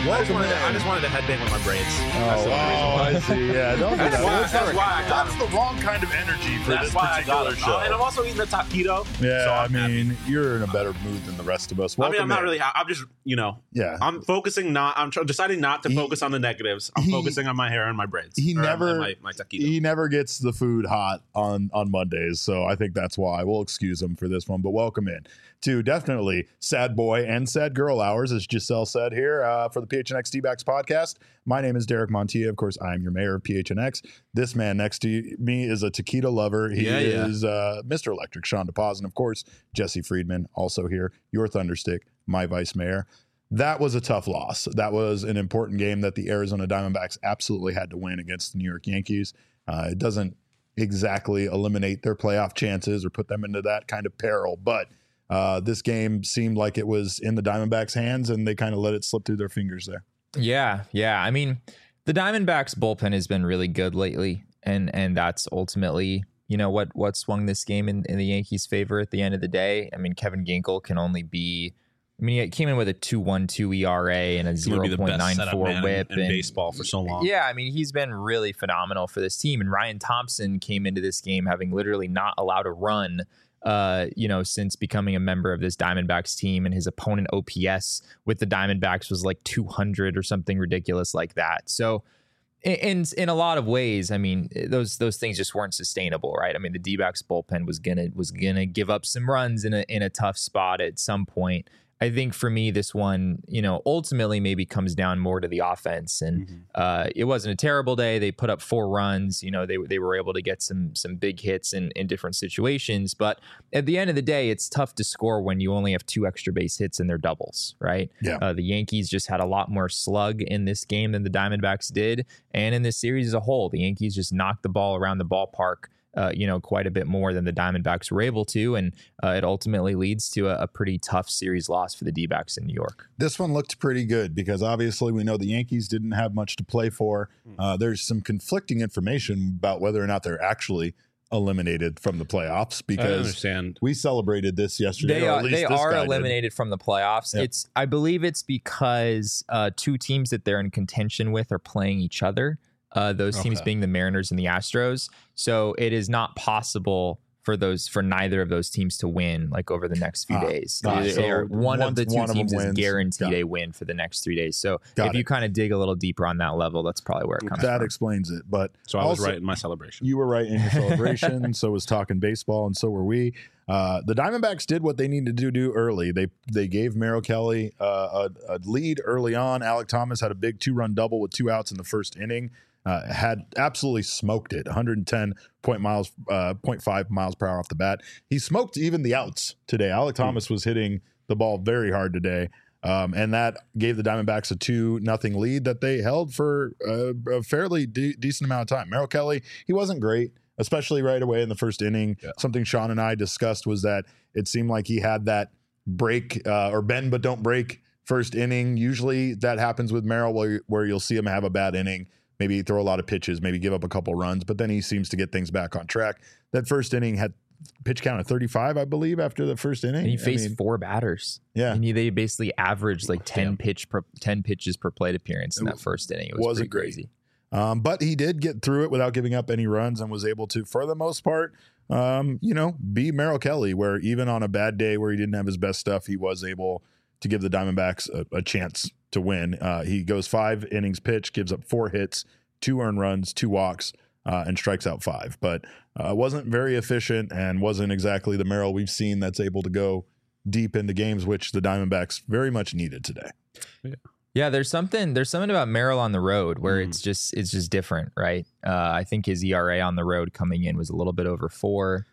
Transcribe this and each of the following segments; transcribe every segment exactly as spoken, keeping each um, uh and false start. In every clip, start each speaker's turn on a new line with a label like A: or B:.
A: I just, wanted to, I just wanted to headbang with my braids.
B: Oh, wow. I see. Yeah, don't do
A: That's
B: that.
A: why-
B: That's,
A: that's
B: the-
A: why I got
B: that's the wrong kind of energy for
A: That's
B: this
A: why I got
B: particular
A: it.
B: show.
A: And I'm also eating the taquito.
B: Yeah,
A: so
B: I
A: I'm happy.
B: mean, you're in a better mood than the rest of us.
A: I mean,
B: Welcome
A: I'm not
B: in.
A: really. ha- I'm just, you know,
B: Yeah.
A: I'm focusing not. I'm tr- deciding not to
B: He-
A: focus on the negatives. I'm
B: he-
A: focusing on my hair and my braids.
B: he
A: Or on
B: never-
A: my, my taquito.
B: He never gets the food hot on on Mondays, so I think that's why we'll excuse him for this one. But welcome in to definitely Sad Boy and Sad Girl Hours, as Giselle said here uh, for the P H N X D-Backs podcast. My name is Derek Montilla. Of course, I am your mayor of P H N X. This man next to me is a taquito lover. He
A: Yeah, yeah.
B: is uh, Mister Electric, Sean DePaz, and of course, Jesse Friedman, also here, your Thunderstick, my vice mayor. That was a tough loss. That was an important game that the Arizona Diamondbacks absolutely had to win against the New York Yankees. Uh, it doesn't exactly eliminate their playoff chances or put them into that kind of peril, but uh, this game seemed like it was in the Diamondbacks' hands, and they kind of let it slip through their fingers there.
C: Yeah, yeah. I mean, the Diamondbacks bullpen has been really good lately, and and that's ultimately, you know, what what swung this game in, in the Yankees' favor at the end of the day. I mean, Kevin Ginkel can only be, I mean, he came in with a two point one two E R A and a
A: He's gonna
C: zero
A: be the
C: point
A: best
C: nine
A: setup
C: four
A: man
C: whip
A: in, in
C: and
A: baseball for so long.
C: yeah, I mean, he's been really phenomenal for this team. And Ryan Thompson came into this game having literally not allowed a run, uh, you know, since becoming a member of this Diamondbacks team. And his opponent O P S with the Diamondbacks was like two hundred or something ridiculous like that. So in in a lot of ways, I mean, those those things just weren't sustainable, right? I mean, the D-backs bullpen was gonna was gonna give up some runs in a in a tough spot at some point. I think for me, this one, you know, ultimately maybe comes down more to the offense. And
A: Mm-hmm.
C: uh, it wasn't a terrible day. They put up four runs. You know, they they were able to get some some big hits in, in different situations. But at the end of the day, it's tough to score when you only have two extra base hits and they're doubles, right?
B: Yeah.
C: Uh, the Yankees just had a lot more slug in this game than the Diamondbacks did. And in this series as a whole, the Yankees just knocked the ball around the ballpark Uh, you know, quite a bit more than the Diamondbacks were able to. And uh, it ultimately leads to a, a pretty tough series loss for the D-backs in New York.
B: This one looked pretty good because obviously we know the Yankees didn't have much to play for. Uh, there's some conflicting information about whether or not they're actually eliminated from the playoffs
A: I
B: because
A: understand.
B: we celebrated this yesterday.
C: They
B: or at
C: are
B: least
C: they
B: this
C: are
B: guy did.
C: eliminated from the playoffs.
B: Yep.
C: It's I believe it's because uh, two teams that they're in contention with are playing each other. Uh, those teams
A: Okay.
C: being the Mariners and the Astros. So it is not possible for those for neither of those teams to win like over the next few
B: Ah,
C: days.
B: ah,
C: They- they are-
B: so
C: one
B: once
C: of the two
B: one of them
C: teams is
B: wins,
C: guaranteed
B: got it.
C: a win for the next three days. So
B: Got
C: if
B: it.
C: you kind of dig a little deeper on that level, that's probably where it comes
B: That
C: from.
B: explains it. But
A: So I was
B: also-
A: right in my celebration.
B: You were right in your celebration. So was talking baseball, and so were we. Uh, the Diamondbacks did what they needed to do early. They they gave Merrill Kelly uh, a, a lead early on. Alec Thomas had a big two run double with two outs in the first inning. Uh, had absolutely smoked it, one hundred ten point miles, uh, point five miles per hour off the bat. He smoked even the outs today. Alec Thomas was hitting the ball very hard today. Um, and that gave the Diamondbacks a two nothing lead that they held for uh, a fairly de- decent amount of time. Merrill Kelly, he wasn't great, especially right away in the first inning.
A: Yeah.
B: Something Sean and I discussed was that it seemed like he had that break uh, or bend but don't break first inning. Usually that happens with Merrill where, where you'll see him have a bad inning, maybe throw a lot of pitches, maybe give up a couple runs, but then he seems to get things back on track. That first inning had pitch count of thirty-five, I believe, after the first inning.
C: And he
B: I
C: faced
B: mean,
C: four batters.
B: yeah.
C: And he, they basically averaged like ten
A: Damn.
C: pitch per, ten pitches per plate appearance in
B: It
C: that first inning. It was
B: wasn't
C: pretty
B: great.
C: crazy.
B: Um, but he did get through it without giving up any runs and was able to, for the most part, um, you know, be Merrill Kelly, where even on a bad day where he didn't have his best stuff, he was able to give the Diamondbacks a, a chance to win. Uh, he goes five innings pitch, gives up four hits, two earned runs, two walks, uh, and strikes out five. But uh, wasn't very efficient and wasn't exactly the Merrill we've seen that's able to go deep into games, which the Diamondbacks very much needed today.
C: Yeah, there's something there's something about Merrill on the road where
A: Mm.
C: it's just it's just different, right? Uh, I think his E R A on the road coming in was a little bit over four.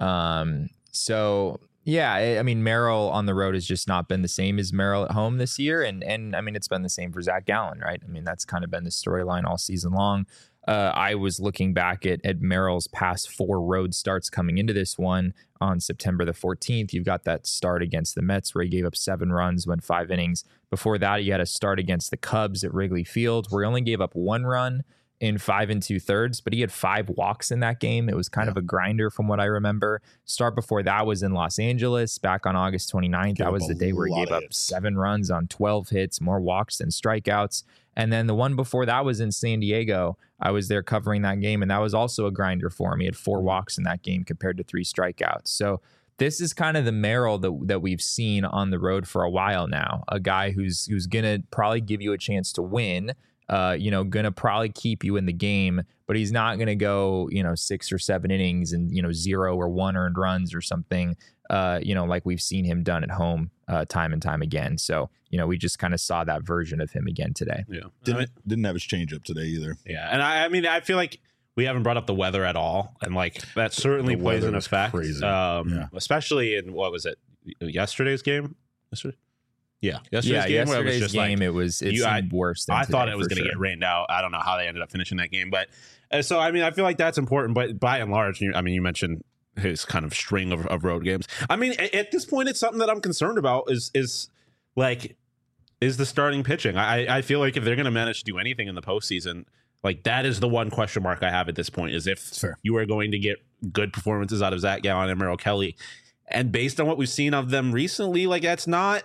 C: Um, so yeah, I, I mean Merrill on the road has just not been the same as Merrill at home this year, and and I mean it's been the same for Zach Gallen, right? I mean that's kind of been the storyline all season long. Uh, I was looking back at, at Merrill's past four road starts coming into this one on September the fourteenth. You've got that start against the Mets where he gave up seven runs, went five innings. Before that, he had a start against the Cubs at Wrigley Field where he only gave up one run in five and two thirds, but he had five walks in that game. It was kind
B: Yeah.
C: of a grinder from what I remember. Start before that was in Los Angeles back on August twenty-ninth.
B: Gave
C: That
B: up
C: was
B: a
C: the day where he
B: lot
C: gave
B: of
C: up
B: hits.
C: seven runs on twelve hits, more walks than strikeouts. And then the one before that was in San Diego. I was there covering that game, and that was also a grinder for him. He had four walks in that game compared to three strikeouts. So this is kind of the Merrill that, that we've seen on the road for a while now. A guy who's who's gonna probably give you a chance to win. Uh, you know, gonna probably keep you in the game, but he's not gonna go, you know, six or seven innings and, you know, zero or one earned runs or something. Uh, you know, like we've seen him done at home uh, time and time again. So, you know, we just kind of saw that version of him again today.
A: Yeah.
B: Didn't
A: I mean,
B: didn't have his changeup today either.
A: yeah. And I, I mean, I feel like we haven't brought up the weather at all. And like that certainly
B: The
A: plays
B: weather
A: an
B: was
A: effect.
B: crazy.
A: Um,
B: Yeah.
A: Especially in, what was it, yesterday's game? Yesterday? Yeah. Yesterday's
C: yeah,
A: game where it was
C: yesterday's
A: just
C: game,
A: like,
C: it was it
A: you-
C: seemed worse than
A: I thought
C: today,
A: it was
C: for
A: going to
C: sure.
A: get rained out. I don't know how they ended up finishing that game, but uh, so I mean, I feel like that's important. But by and large, you, I mean, you mentioned his kind of string of, of road games. I mean, at, at this point, it's something that I'm concerned about. Is is like is the starting pitching? I I feel like if they're going to manage to do anything in the postseason, like that is the one question mark I have at this point. Is if
B: Fair.
A: you are going to get good performances out of Zach Gallen and Merrill Kelly, and based on what we've seen of them recently, like that's not.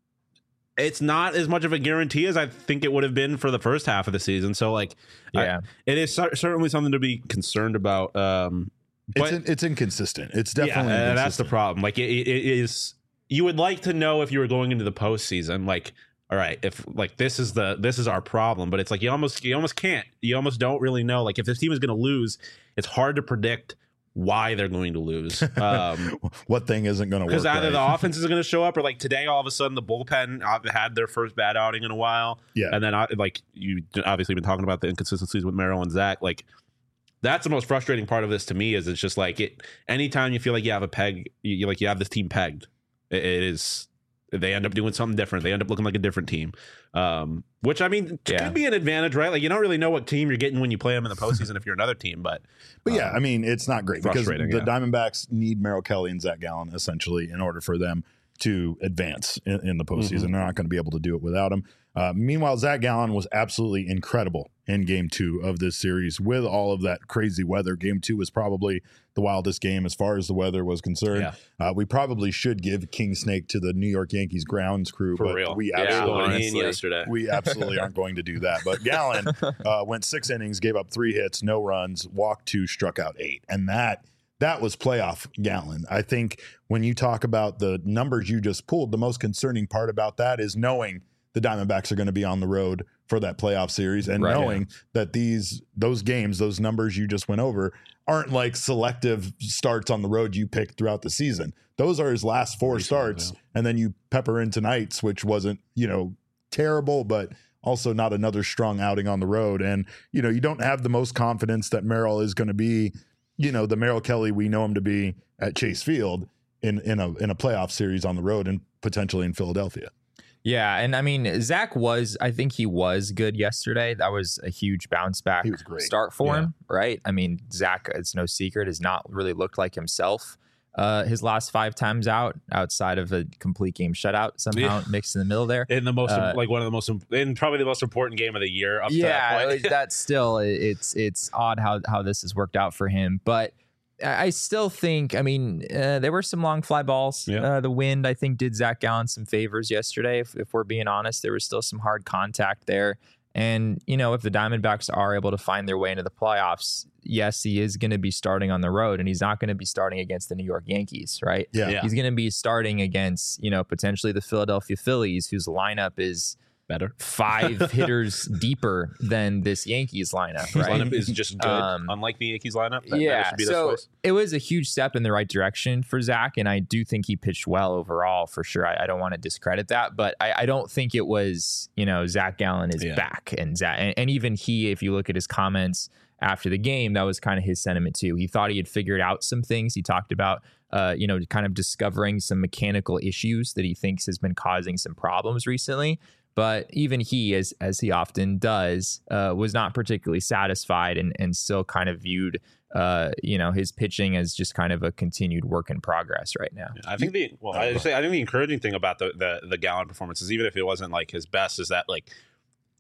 A: It's not as much of a guarantee as I think it would have been for the first half of the season. So, like,
C: Yeah.
A: I, it is cer- certainly something to be concerned about. Um,
B: It's
A: but
B: in, it's inconsistent. It's definitely
A: yeah, uh, that's the
B: inconsistent.
A: problem. Like, it, it, it is. You would like to know if you were going into the postseason, like, all right, if like this is the this is our problem, but it's like you almost you almost can't. You almost don't really know. Like, if this team is going to lose, it's hard to predict why they're going to lose. Um,
B: What thing isn't going to work?
A: Because either
B: right?
A: the offense is going to show up, or like today, all of a sudden, the bullpen uh, had their first bad outing in a while.
B: Yeah.
A: And then, uh, like, you obviously been talking about the inconsistencies with Merrill and Zach. Like, that's the most frustrating part of this to me. Is it's just like it. Anytime you feel like you have a peg, you, you like you have this team pegged. It, it is. They end up doing something different. They end up looking like a different team, um, which I mean
C: Yeah.
A: could be an advantage, right? Like you don't really know what team you're getting when you play them in the postseason if you're another team, but
B: But yeah,
A: um,
B: I mean, it's not great because the
A: frustrating, yeah.
B: Diamondbacks need Merrill Kelly and Zach Gallen essentially in order for them to advance in, in the postseason.
A: Mhm.
B: They're not going to be able to do it without him. Uh, meanwhile, Zach Gallen was absolutely incredible in game two of this series with all of that crazy weather. Game two was probably the wildest game as far as the weather was concerned.
A: Yeah.
B: Uh, we probably should give King Snake to the New York Yankees grounds crew,
A: for
B: but
A: real,
B: we
C: Yeah,
B: absolutely
A: going in
C: honestly.
A: yesterday.
B: we absolutely aren't going to do that. But Gallen uh, went six innings, gave up three hits, no runs, walked two, struck out eight. And that that was playoff Gallen. I think when you talk about the numbers you just pulled, the most concerning part about that is knowing the Diamondbacks are going to be on the road for that playoff series and
C: Right.
B: knowing that these those games, those numbers you just went over, aren't like selective starts on the road you picked throughout the season. Those are his last four
A: Recent,
B: starts.
A: yeah.
B: And then you pepper in tonight's, which wasn't, you know, terrible, but also not another strong outing on the road. And, you know, you don't have the most confidence that Merrill is going to be, you know, the Merrill Kelly we know him to be at Chase Field in, in a in a playoff series on the road and potentially in Philadelphia.
C: Yeah, and I mean, Zach was, I think he was good yesterday. That was a huge bounce back
B: He was great.
C: start for
A: Yeah.
C: him, right? I mean, Zach, it's no secret, has not really looked like himself uh, his last five times out, outside of a complete game shutout somehow
A: Yeah.
C: mixed in the middle there.
A: in the most
C: Uh,
A: like one of the most in probably the most important game of the year up to that
C: Yeah,
A: point.
C: that's still it's it's odd how how this has worked out for him, but I I still think, I mean, uh, there were some long fly balls.
A: Yeah.
C: Uh, the wind, I think, did Zach Gallen some favors yesterday. If, if we're being honest, there was still some hard contact there. And, you know, if the Diamondbacks are able to find their way into the playoffs, yes, he is going to be starting on the road, and he's not going to be starting against the New York Yankees, right?
B: Yeah.
A: Yeah.
C: He's going to be starting against, you know, potentially the Philadelphia Phillies, whose lineup is
A: Better.
C: five hitters deeper than this Yankees lineup,
A: His
C: right?
A: lineup is just good,
C: Um,
A: unlike the Yankees lineup. That, that
C: yeah,
A: should be this
C: so
A: place.
C: it was a huge step in the right direction for Zach, and I do think he pitched well overall for sure. I, I don't want to discredit that, but I, I don't think it was, you know, Zach Gallen is
A: Yeah.
C: back, and Zach, and, and even he, if you look at his comments after the game, that was kind of his sentiment too. He thought he had figured out some things. He talked about, uh, you know, kind of discovering some mechanical issues that he thinks has been causing some problems recently. But even he, as as he often does, uh, was not particularly satisfied and and still kind of viewed, uh, you know, his pitching as just kind of a continued work in progress right now.
A: I think the well, I, say, I think the encouraging thing about the, the the Gallen performance is even if it wasn't like his best, is that like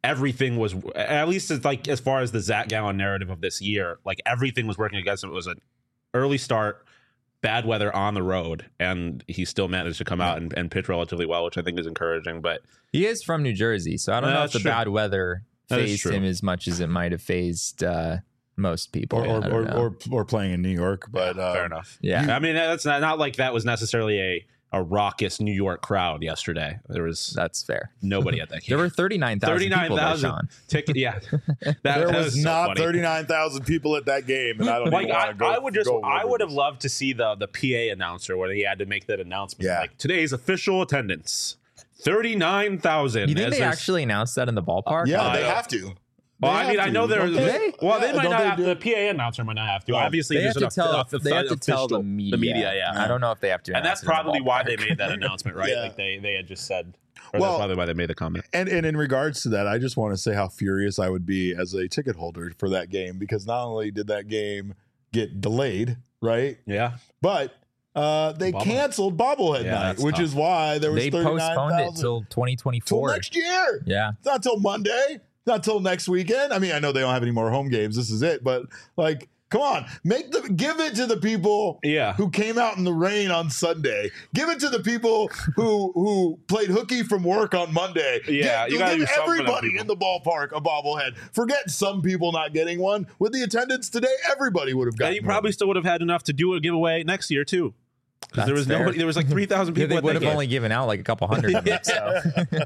A: everything was, at least it's like as far as the Zach Gallen narrative of this year, like everything was working against him. It was an early start, bad weather on the road, and he still managed to come out and, and pitch relatively well, which I think is encouraging. But
C: he is from New Jersey, so I don't
A: Uh,
C: know if the
A: true.
C: bad weather
A: That is
C: phased
A: true.
C: him as much as it might have phased uh, most people.
B: or
C: I
B: or,
C: don't
B: or,
C: know.
B: or or playing in New York, but uh,
A: fair enough.
C: yeah,
A: I mean, that's not, not like that was necessarily a, a raucous New York crowd yesterday. There was
C: that's fair.
A: nobody at that game.
C: There were thirty-nine thousand people there, Sean.
A: ticket. Yeah, that,
B: there
A: that
B: was
A: so
B: not
A: funny.
B: thirty-nine thousand people at that game, and I don't
A: Like
B: even
A: I,
B: want to go.
A: I would just,
B: go
A: I
B: over
A: would have
B: this.
A: loved to see the the P A announcer where he had to make that announcement.
B: Yeah.
A: Like today's official attendance, thirty nine thousand.
C: You think they actually announced that in the ballpark?
B: Yeah,
A: Uh,
B: they
A: yeah.
B: have to.
A: Well,
B: They
A: I mean,
B: have
A: I know
B: to,
A: there's.
B: don't
C: they?
A: Well, they
B: Yeah,
A: might
B: don't
A: not
B: they
A: have.
B: do-
A: The P A announcer might not have to.
B: Oh,
A: Obviously,
C: They have
A: there's
C: to
A: an
C: tell.
A: off-
C: They have to tell the
A: official-
C: media.
A: The media, yeah.
C: I don't know if they have to.
A: And that's
C: announce it in the
A: probably why they
C: ballpark.
A: made that announcement, right?
B: Yeah.
A: Like they, they had just said, or
B: Well-
A: that's probably why they made the comment.
B: And and in regards to that, I just want to say how furious I would be as a ticket holder for that game, because not only did that game get delayed, right,
A: Yeah,
B: but uh, they
A: Bobblehead.
B: canceled bobblehead
A: Yeah,
B: night,
A: that's
B: which
A: tough.
B: is why there was
C: They
B: thirty-nine
C: postponed it
B: thousand
C: till twenty
B: till
C: twenty-four.
B: next year.
C: Yeah.
B: It's not till Monday. It's not till next weekend. I mean, I know they don't have any more home games. This is it, but like, come on, make the give it to the people
A: yeah.
B: who came out in the rain on Sunday. Give it to the people who who played hooky from work on Monday.
A: Yeah,
B: give,
A: you gotta
B: give
A: do something for them
B: everybody
A: people.
B: in the ballpark a bobblehead. Forget some people not getting one. With the attendance today, everybody would have
A: And
B: gotten.
A: you probably still would have had enough to do a giveaway next year too. 'Cause there
C: That's
A: was
C: fair.
A: nobody. There was like three thousand
C: Yeah,
A: people.
C: they
A: at
C: would
A: that
C: have
A: game.
C: only given out like a couple hundred of them. So.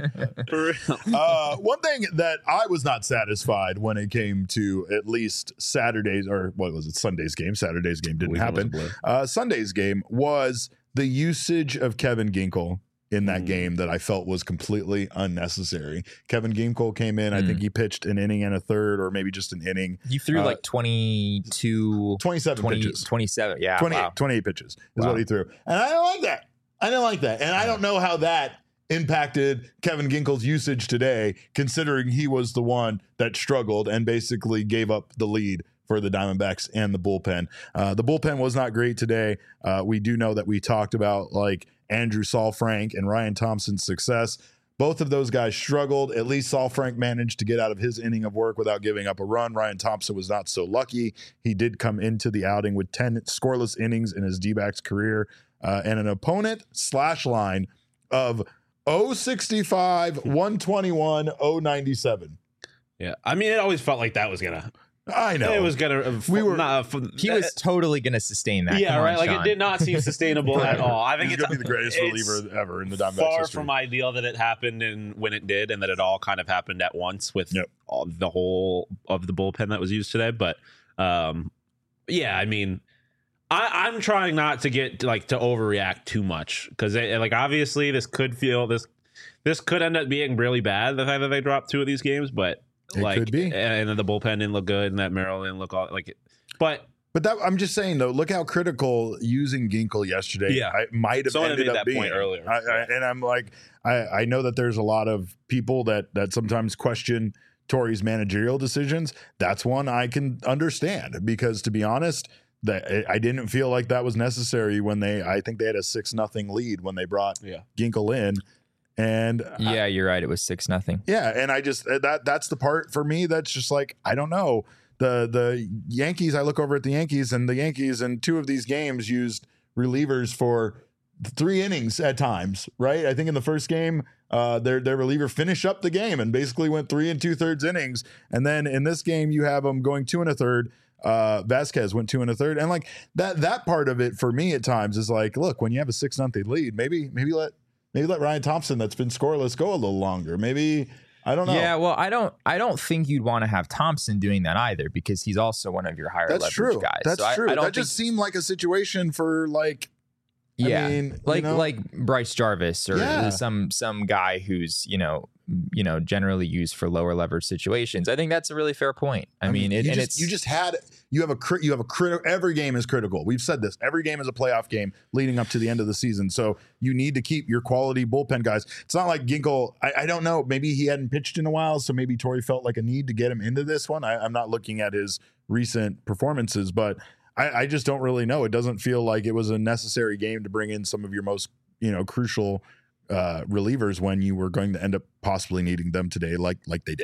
A: For real.
B: one. Uh, one thing that I was not satisfied when it came to at least Saturday's or what was it Sunday's game. Saturday's game didn't
A: Weekend was
B: happen.
A: a blur.
B: Uh, Sunday's game was the usage of Kevin Ginkel in that
A: Mm.
B: game that I felt was completely unnecessary. Kevin Ginkel came in. I
C: Mm.
B: think he pitched an inning and a third, or maybe just an inning.
C: You threw
B: Uh,
C: like twenty-two,
B: twenty-seven
C: twenty,
B: pitches.
C: twenty-seven. Yeah.
B: twenty-eight,
C: Wow.
B: twenty-eight pitches is
C: Wow.
B: what he threw. And I don't like that. I don't like that. And I don't know how that impacted Kevin Ginkel's usage today, considering he was the one that struggled and basically gave up the lead for the Diamondbacks and the bullpen. Uh, the bullpen was not great today. Uh, we do know that we talked about like Andrew Saalfrank and Ryan Thompson's success. Both of those guys struggled. At least Saalfrank managed to get out of his inning of work without giving up a run. Ryan Thompson was not so lucky. He did come into the outing with ten scoreless innings in his D-backs career uh, and an opponent slash line of oh sixty-five, one twenty-one, oh ninety-seven.
A: Yeah, I mean, it always felt like that was gonna.
B: I know.
A: It was gonna. Uh,
B: We were-
A: Not, uh,
C: He was totally going to sustain that.
A: Yeah,
C: Come on,
A: right. Like
C: Sean.
A: it did not seem sustainable at all. I think
B: He's
A: it's
B: going to be the greatest
A: it's
B: reliever ever in the Diamondbacks
A: Far
B: history.
A: from ideal that it happened and when it did, and that it all kind of happened at once with
B: Yep.
A: all, the whole of the bullpen that was used today. But um, yeah, I mean, I, I'm trying not to get like to overreact too much because like obviously this could feel this this could end up being really bad the fact that they dropped two of these games, but
B: It
A: like
B: could be.
A: and, and then the bullpen didn't look good and that Merrill didn't look all like it, but.
B: But that I'm just saying though, look how critical using Ginkel yesterday
A: Yeah.
B: I might have
A: Someone
B: ended
A: made
B: up
A: that
B: being.
A: point earlier.
B: I, I, and I'm like, I, I know that there's a lot of people that that sometimes question Torey's managerial decisions. That's one I can understand because to be honest, that I didn't feel like that was necessary when they. I think they had a six nothing lead when they brought
A: Yeah.
B: Ginkel in, and I-
C: Yeah, you're right. It was six nothing.
B: yeah, and I just that that's the part for me that's just like I don't know. The the Yankees, I look over at the Yankees and the Yankees in two of these games used relievers for three innings at times, right? I think in the first game, uh, their their reliever finished up the game and basically went three and two thirds innings. And then in this game, you have them going two and a third. Uh, Vasquez went two and a third, and like that that part of it for me at times is like, look, when you have a six nothing lead, maybe maybe let maybe let Ryan Thompson that's been scoreless go a little longer. Maybe. I don't know.
C: Yeah, well, I don't. I don't think you'd want to have Thompson doing that either because he's also one of your higher
B: That's
C: leverage
B: true.
C: guys.
B: That's
C: So I-
B: true.
C: I, don't
B: that
C: think,
B: just seemed like a situation for like,
C: yeah,
B: I mean,
C: like
B: you know?
C: like Bryce Jarvis or
B: Yeah.
C: some some guy who's you know you know generally used for lower leverage situations. I think that's a really fair point. I, mean, it,
B: you
C: and
B: just,
C: it's
B: you just had you have a crit, you have a crit. Every game is critical. We've said this. Every game is a playoff game leading up to the end of the season. So you need to keep your quality bullpen guys. It's not like Ginkel. I, I don't know. Maybe he hadn't pitched in a while, so maybe Torey felt like a need to get him into this one. I, I'm not looking at his recent performances, but I, I just don't really know. It doesn't feel like it was a necessary game to bring in some of your most you know crucial uh, relievers when you were going to end up possibly needing them today, like like they did.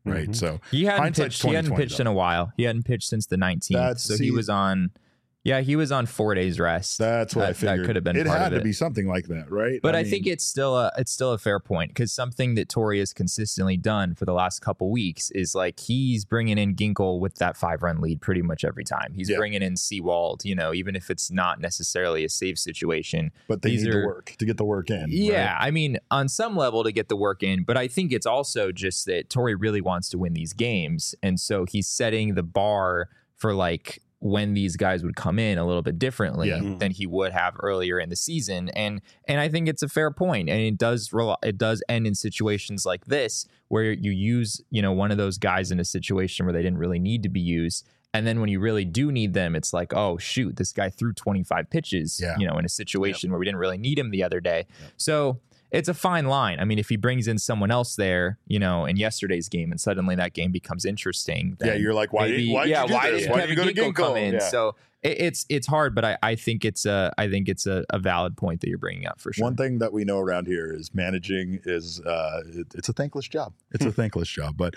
B: right?
A: Mm-hmm.
B: So
C: he hadn't
B: hindsight's
C: pitched. He hadn't
B: twenty twenty
C: pitched in a while. He hadn't pitched since the nineteenth.
B: That's-
C: So
B: see-
C: he was on. Yeah, he was on four days rest.
B: That's what
C: that,
B: I figured.
C: That could have been
B: It
C: part
B: had
C: of
B: to
C: it.
B: be something like that, right?
C: But I,
B: mean,
C: think it's still a it's still a fair point because something that Torrey has consistently done for the last couple weeks is like he's bringing in Ginkel with that five run lead pretty much every time. He's
B: Yeah.
C: bringing in Seawald, you know, even if it's not necessarily a safe situation.
B: but they
C: these
B: need
C: are-
B: to work to get the work in.
C: Yeah,
B: right?
C: I mean, on some level to get the work in, but I think it's also just that Torrey really wants to win these games, and so he's setting the bar for like when these guys would come in a little bit differently
B: Yeah.
C: than he would have earlier in the season, and and I think it's a fair point, and it does rel- it does end in situations like this where you use you know one of those guys in a situation where they didn't really need to be used. And then when you really do need them, it's like, oh, shoot, this guy threw twenty-five pitches,
B: Yeah.
C: you know, in a situation where we didn't really need him the other day. So it's a fine line. I mean, if he brings in someone else there, you know, in yesterday's game and suddenly that game becomes interesting.
B: Yeah,
C: then
B: you're like, why
C: maybe-
B: did why did
C: yeah,
B: you do
C: why
B: this?
C: did
B: Why
C: Kevin
B: did you go to
C: Ginkel come
B: Ginkel?
C: in?
B: Yeah.
C: So it, it's it's hard, but I, I think it's a I think it's a, a valid point that you're bringing up for sure.
B: One thing that we know around here is managing is uh, it, it's a thankless job. It's a thankless job, but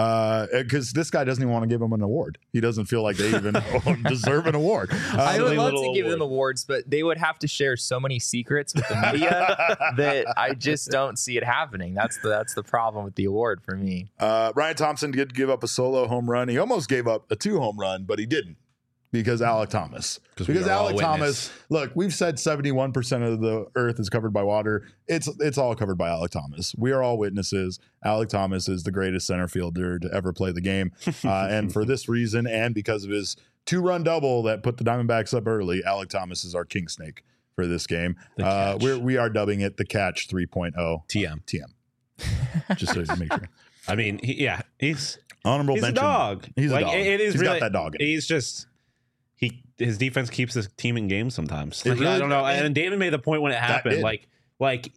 B: because this guy doesn't even want to give him an award. He doesn't feel like they even deserve an award. Uh,
C: I would
A: silly
C: love to
A: little
C: give
A: award.
C: them awards, but they would have to share so many secrets with the media that I just don't see it happening. That's the that's the problem with the award for me.
B: Uh, Ryan Thompson did give up a solo home run. He almost gave up a two home run, but he didn't because Alec Thomas.
A: 'Cause we
B: Because
A: are all
B: Alec
A: witness.
B: Thomas, look, we've said seventy-one percent of the earth is covered by water. It's it's all covered by Alec Thomas. We are all witnesses. Alec Thomas is the greatest center fielder to ever play the game. Uh, and for this reason, and because of his two-run double that put the Diamondbacks up early, Alec Thomas is our king snake for this game.
A: The
B: Uh,
A: catch.
B: we're, we are dubbing it the Catch three point oh.
A: T M.
B: T M. Just so you make sure.
A: I mean, he, yeah, he's
B: Honorable
A: he's a
B: mention.
A: dog.
B: He's a
A: like,
B: dog.
A: It, it is
B: He's
A: really,
B: got that dog in him.
A: He's just he his defense keeps his team in games sometimes.
B: It
A: Like,
B: really-
A: I don't know.
B: and-
A: And Damon made the point when it happened.
B: did.
A: Like like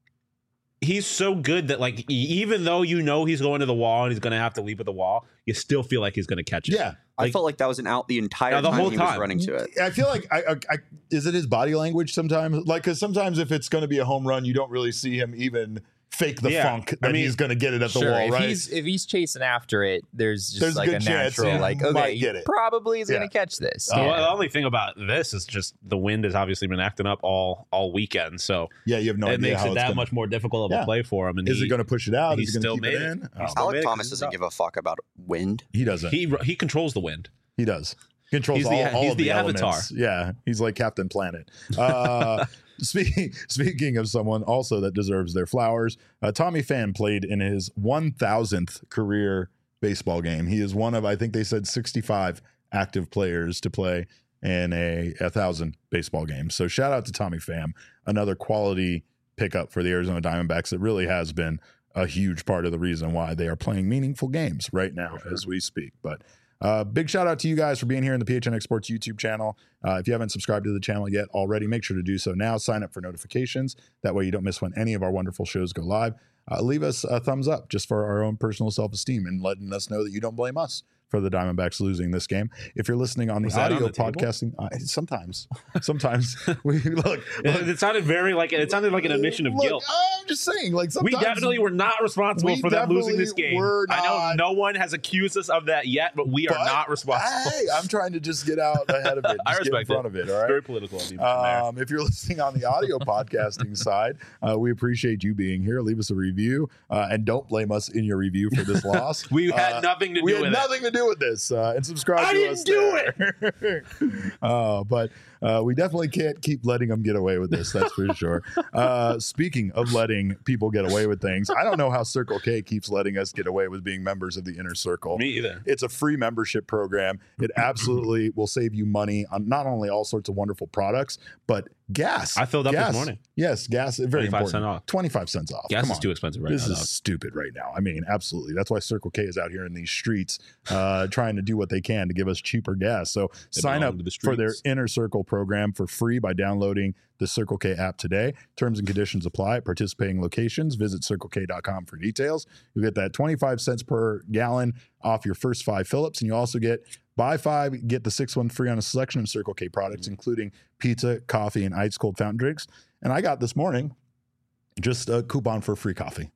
A: he's so good that like e- even though you know he's going to the wall and he's going to have to leap at the wall, you still feel like he's going to catch it.
B: Yeah.
D: I
A: Like-
D: felt like that was an out the entire
A: Yeah, the
D: time
A: whole
D: he was
A: time.
D: running to it.
B: I feel like I, I, I is it his body language sometimes? Like, because sometimes if it's going to be a home run, you don't really see him even fake the
A: Yeah.
B: funk
A: I
B: that
A: mean,
B: he's going to get it at the
C: Sure,
B: wall,
C: if
B: right?
C: he's if he's chasing after it, there's just
B: There's a
C: like a,
B: good chance
C: natural
B: he
C: like
B: might
C: okay,
B: get
C: he
B: it.
C: probably is
B: Yeah.
C: going to catch this.
B: Oh,
A: So
C: Yeah.
A: the only thing about this is just the wind has obviously been acting up all all weekend, so
B: yeah, you have no
A: it
B: idea
A: makes
B: how
A: it
B: it's
A: that
B: gonna,
A: much more difficult of
B: Yeah.
A: a play for him. And
B: Is
A: he,
B: it going to push it out?
A: he
B: Is it going
A: still
B: to keep it
A: made it.
B: in?
A: He
B: Oh,
A: still-
D: Alec
A: big,
D: Thomas
A: he's
D: doesn't
A: up.
D: give a fuck about wind.
B: he doesn't. He,
A: he he controls the wind.
B: does. Controls
A: He's
B: all,
A: the-
B: all
A: he's
B: of
A: the
B: the,
A: Avatar.
B: elements. Yeah, he's like Captain Planet. Uh, speaking speaking of someone also that deserves their flowers, uh, Tommy Pham played in his one thousandth career baseball game. He is one of, I think they said, sixty-five active players to play in a, a thousand baseball games. So shout out to Tommy Pham, another quality pickup for the Arizona Diamondbacks. It really has been a huge part of the reason why they are playing meaningful games right now as we speak. But uh, big shout out to you guys for being here in the P H N X Sports YouTube channel. Uh, if you haven't subscribed to the channel yet already, make sure to do so now. Sign up for notifications. That way you don't miss when any of our wonderful shows go live. Uh, leave us a thumbs up just for our own personal self-esteem and letting us know that you don't blame us for the Diamondbacks losing this game. If you're listening on the
A: Was that on
B: audio
A: the table?
B: podcasting, uh, sometimes, sometimes we look. look
A: It, it sounded very like it sounded like an admission of
B: look,
A: guilt.
B: I'm just saying, like
A: We
B: sometimes
A: definitely were not responsible
B: we
A: for them losing this
B: definitely
A: game.
B: were
A: I know
B: not.
A: no one has accused us of that yet, but we are
B: But,
A: not responsible.
B: Hey, I'm trying to just get out ahead of it. Just
A: I
B: get in
A: respect
B: front
A: it.
B: of it. All right.
A: Very political of you from there.
B: Um, if you're listening on the audio podcasting side, uh, we appreciate you being here. Leave us a review uh, and don't blame us in your review for this loss.
A: We had
B: uh,
A: nothing to
B: we
A: do
B: had
A: with
B: nothing to do with this. Uh, and subscribe
A: I
B: to
A: didn't
B: us.
A: do
B: it. uh, but uh, we definitely can't keep letting them get away with this. That's for sure. Uh, speaking of letting people get away with things, I don't know how Circle K keeps letting us get away with being members of the Inner Circle.
A: it. Me either.
B: It's a free membership program. It absolutely will save you money on not only all sorts of wonderful products, but gas.
A: I filled up this
B: gas.
A: morning.
B: Yes, gas. Very
A: twenty-five
B: important.
A: cent off.
B: twenty-five cents off.
A: Gas
B: Come
A: is
B: on.
A: too expensive right
B: This
A: now.
B: is
A: dog.
B: stupid right now. I mean, absolutely. That's why Circle K is out here in these streets uh, trying to do what they can to give us cheaper gas. So
A: They
B: sign
A: belong
B: up
A: to the
B: for their
A: streets.
B: Inner Circle program for free by downloading the Circle K app today. Terms and conditions apply at participating locations. Visit circle k dot com for details. You'll get that twenty-five cents per gallon off your first five fill-ups, and you also get buy five, get the sixth one free on a selection of Circle K products, including pizza, coffee, and ice cold fountain drinks. And I got this morning just a coupon for free coffee.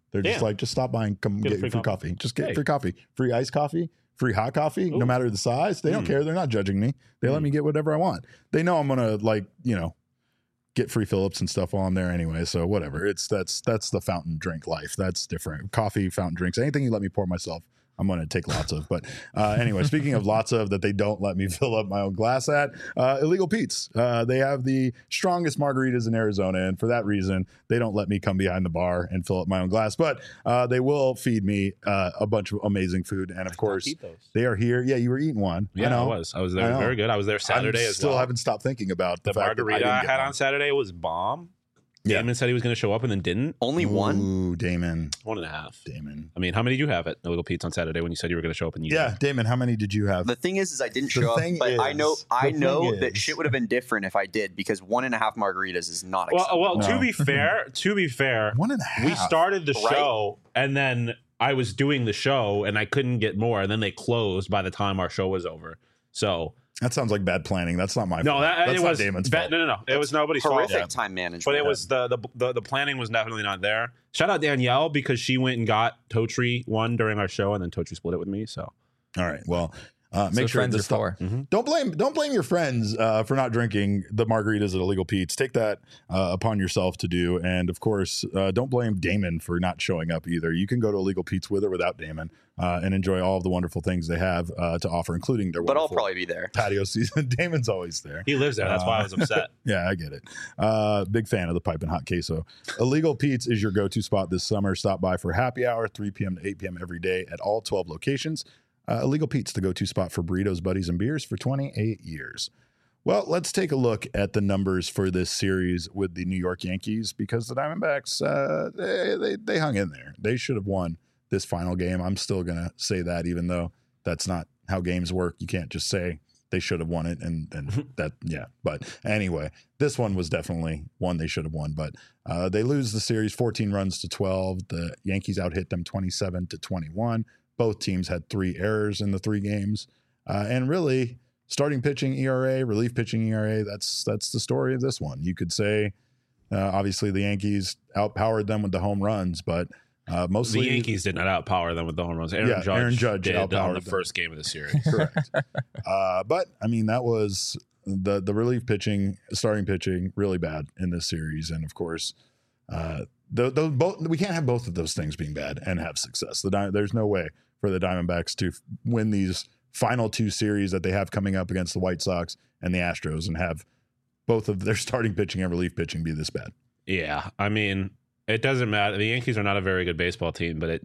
B: They're just
A: Yeah.
B: like, just stop by and come
A: Get a
B: get,
A: free
B: free
A: coffee.
B: coffee. Just get
A: Hey.
B: free coffee, free iced coffee, free hot coffee,
A: Ooh.
B: no matter the size. They don't
A: Mm.
B: care. They're not judging me. They let
A: Mm.
B: me get whatever I want. They know I'm gonna like, you know, get free Phillips and stuff while I'm there anyway. So whatever. It's that's that's the fountain drink life. That's different. Coffee, fountain drinks, anything you let me pour myself, I'm going to take lots of. But uh, anyway, speaking of lots of that they don't let me fill up my own glass at, uh, Illegal Pete's. Uh, they have the strongest margaritas in Arizona. And for that reason, they don't let me come behind the bar and fill up my own glass. But uh, they will feed me uh, a bunch of amazing food. And of course,
A: Eat those.
B: they are here. Yeah, you were eating one.
A: Yeah,
B: I know.
A: I was. I was
B: I
A: there.
B: know.
A: Very good. I was there Saturday
B: I
A: as
B: still
A: well.
B: haven't stopped thinking about the,
A: The
B: fact that
A: margarita
B: didn't
A: I,
B: get
A: had
B: one.
A: on Saturday was bomb.
B: Yeah.
A: Damon said he was going to show up and then didn't.
D: Only one.
B: Ooh, Damon.
A: One and a half.
B: Damon.
A: I mean, how many did you have at Illegal Pete's on Saturday when you said you were going to show up and you
B: Yeah,
A: didn't?
B: Damon, how many did you have?
D: The thing is, is I didn't
B: The
D: show up,
B: thing
D: but I know
B: is-
D: I
B: the
D: know
B: thing
D: that
B: is-
D: shit would have been different if I did, because one and a half margaritas is not
A: Well,
D: acceptable.
A: well, to
B: No.
A: be fair, to be fair,
B: One and a half.
A: we started the
D: Right?
A: show and then I was doing the show and I couldn't get more, and then they closed by the time our show was over. So
B: That sounds like bad planning. That's not my
A: no,
B: fault.
A: that
B: That's
A: it
B: not
A: was
B: Damon's
A: ba-
B: fault.
A: no, no, no. It was nobody's
D: Horrific
A: fault.
D: time management.
A: But it was the, the the the planning was definitely not there. Shout out Danielle because she went and got Totri one during our show, and then Totri split it with me. So
B: All right. Well, uh,
C: That's
B: make
C: what
B: sure
C: friends
B: this
C: are
B: stuff.
C: for.
B: Don't blame don't blame your friends uh, for not drinking the margaritas at Illegal Pete's. Take that uh, upon yourself to do, and of course, uh, don't blame Damon for not showing up either. You can go to Illegal Pete's with or without Damon uh, and enjoy all of the wonderful things they have uh, to offer, including their
D: but I'll
B: wonderful
D: probably be there.
B: patio season. Damon's always there.
A: he lives there. That's why I was upset.
B: Yeah, I get it. Uh, big fan of the pipe and hot queso. Illegal Pete's is your go-to spot this summer. Stop by for happy hour, three p.m. to eight p.m. every day at all twelve locations. Uh, Illegal Pete's, the go-to spot for burritos, buddies, and beers for twenty-eight years. Well, let's take a look at the numbers for this series with the New York Yankees, because the Diamondbacks, uh, they, they, they hung in there. They should have won this final game. I'm still going to say that, even though that's not how games work. You can't just say they should have won it and, and that, yeah. But anyway, this one was definitely one they should have won. But uh, they lose the series fourteen runs to twelve. The Yankees out-hit them twenty-seven to twenty-one. Both teams had three errors in the three games. Uh, and really, starting pitching E R A, relief pitching E R A, that's that's the story of this one. You could say, uh, obviously, the Yankees outpowered them with the home runs, but uh, mostly
A: The Yankees did not outpower them with the home runs. Aaron
B: Yeah,
A: Judge,
B: Aaron Judge
A: did on
B: outpowered
A: the
B: them.
A: first game of the series.
B: correct. uh, but I mean, that was the the relief pitching, starting pitching, really bad in this series, and of course, uh, the, the, both we can't have both of those things being bad and have success. The Di- there's no way for the Diamondbacks to f- win these final two series that they have coming up against the White Sox and the Astros and have both of their starting pitching and relief pitching be this bad.
A: Yeah, I mean, it doesn't matter. The Yankees are not a very good baseball team, but it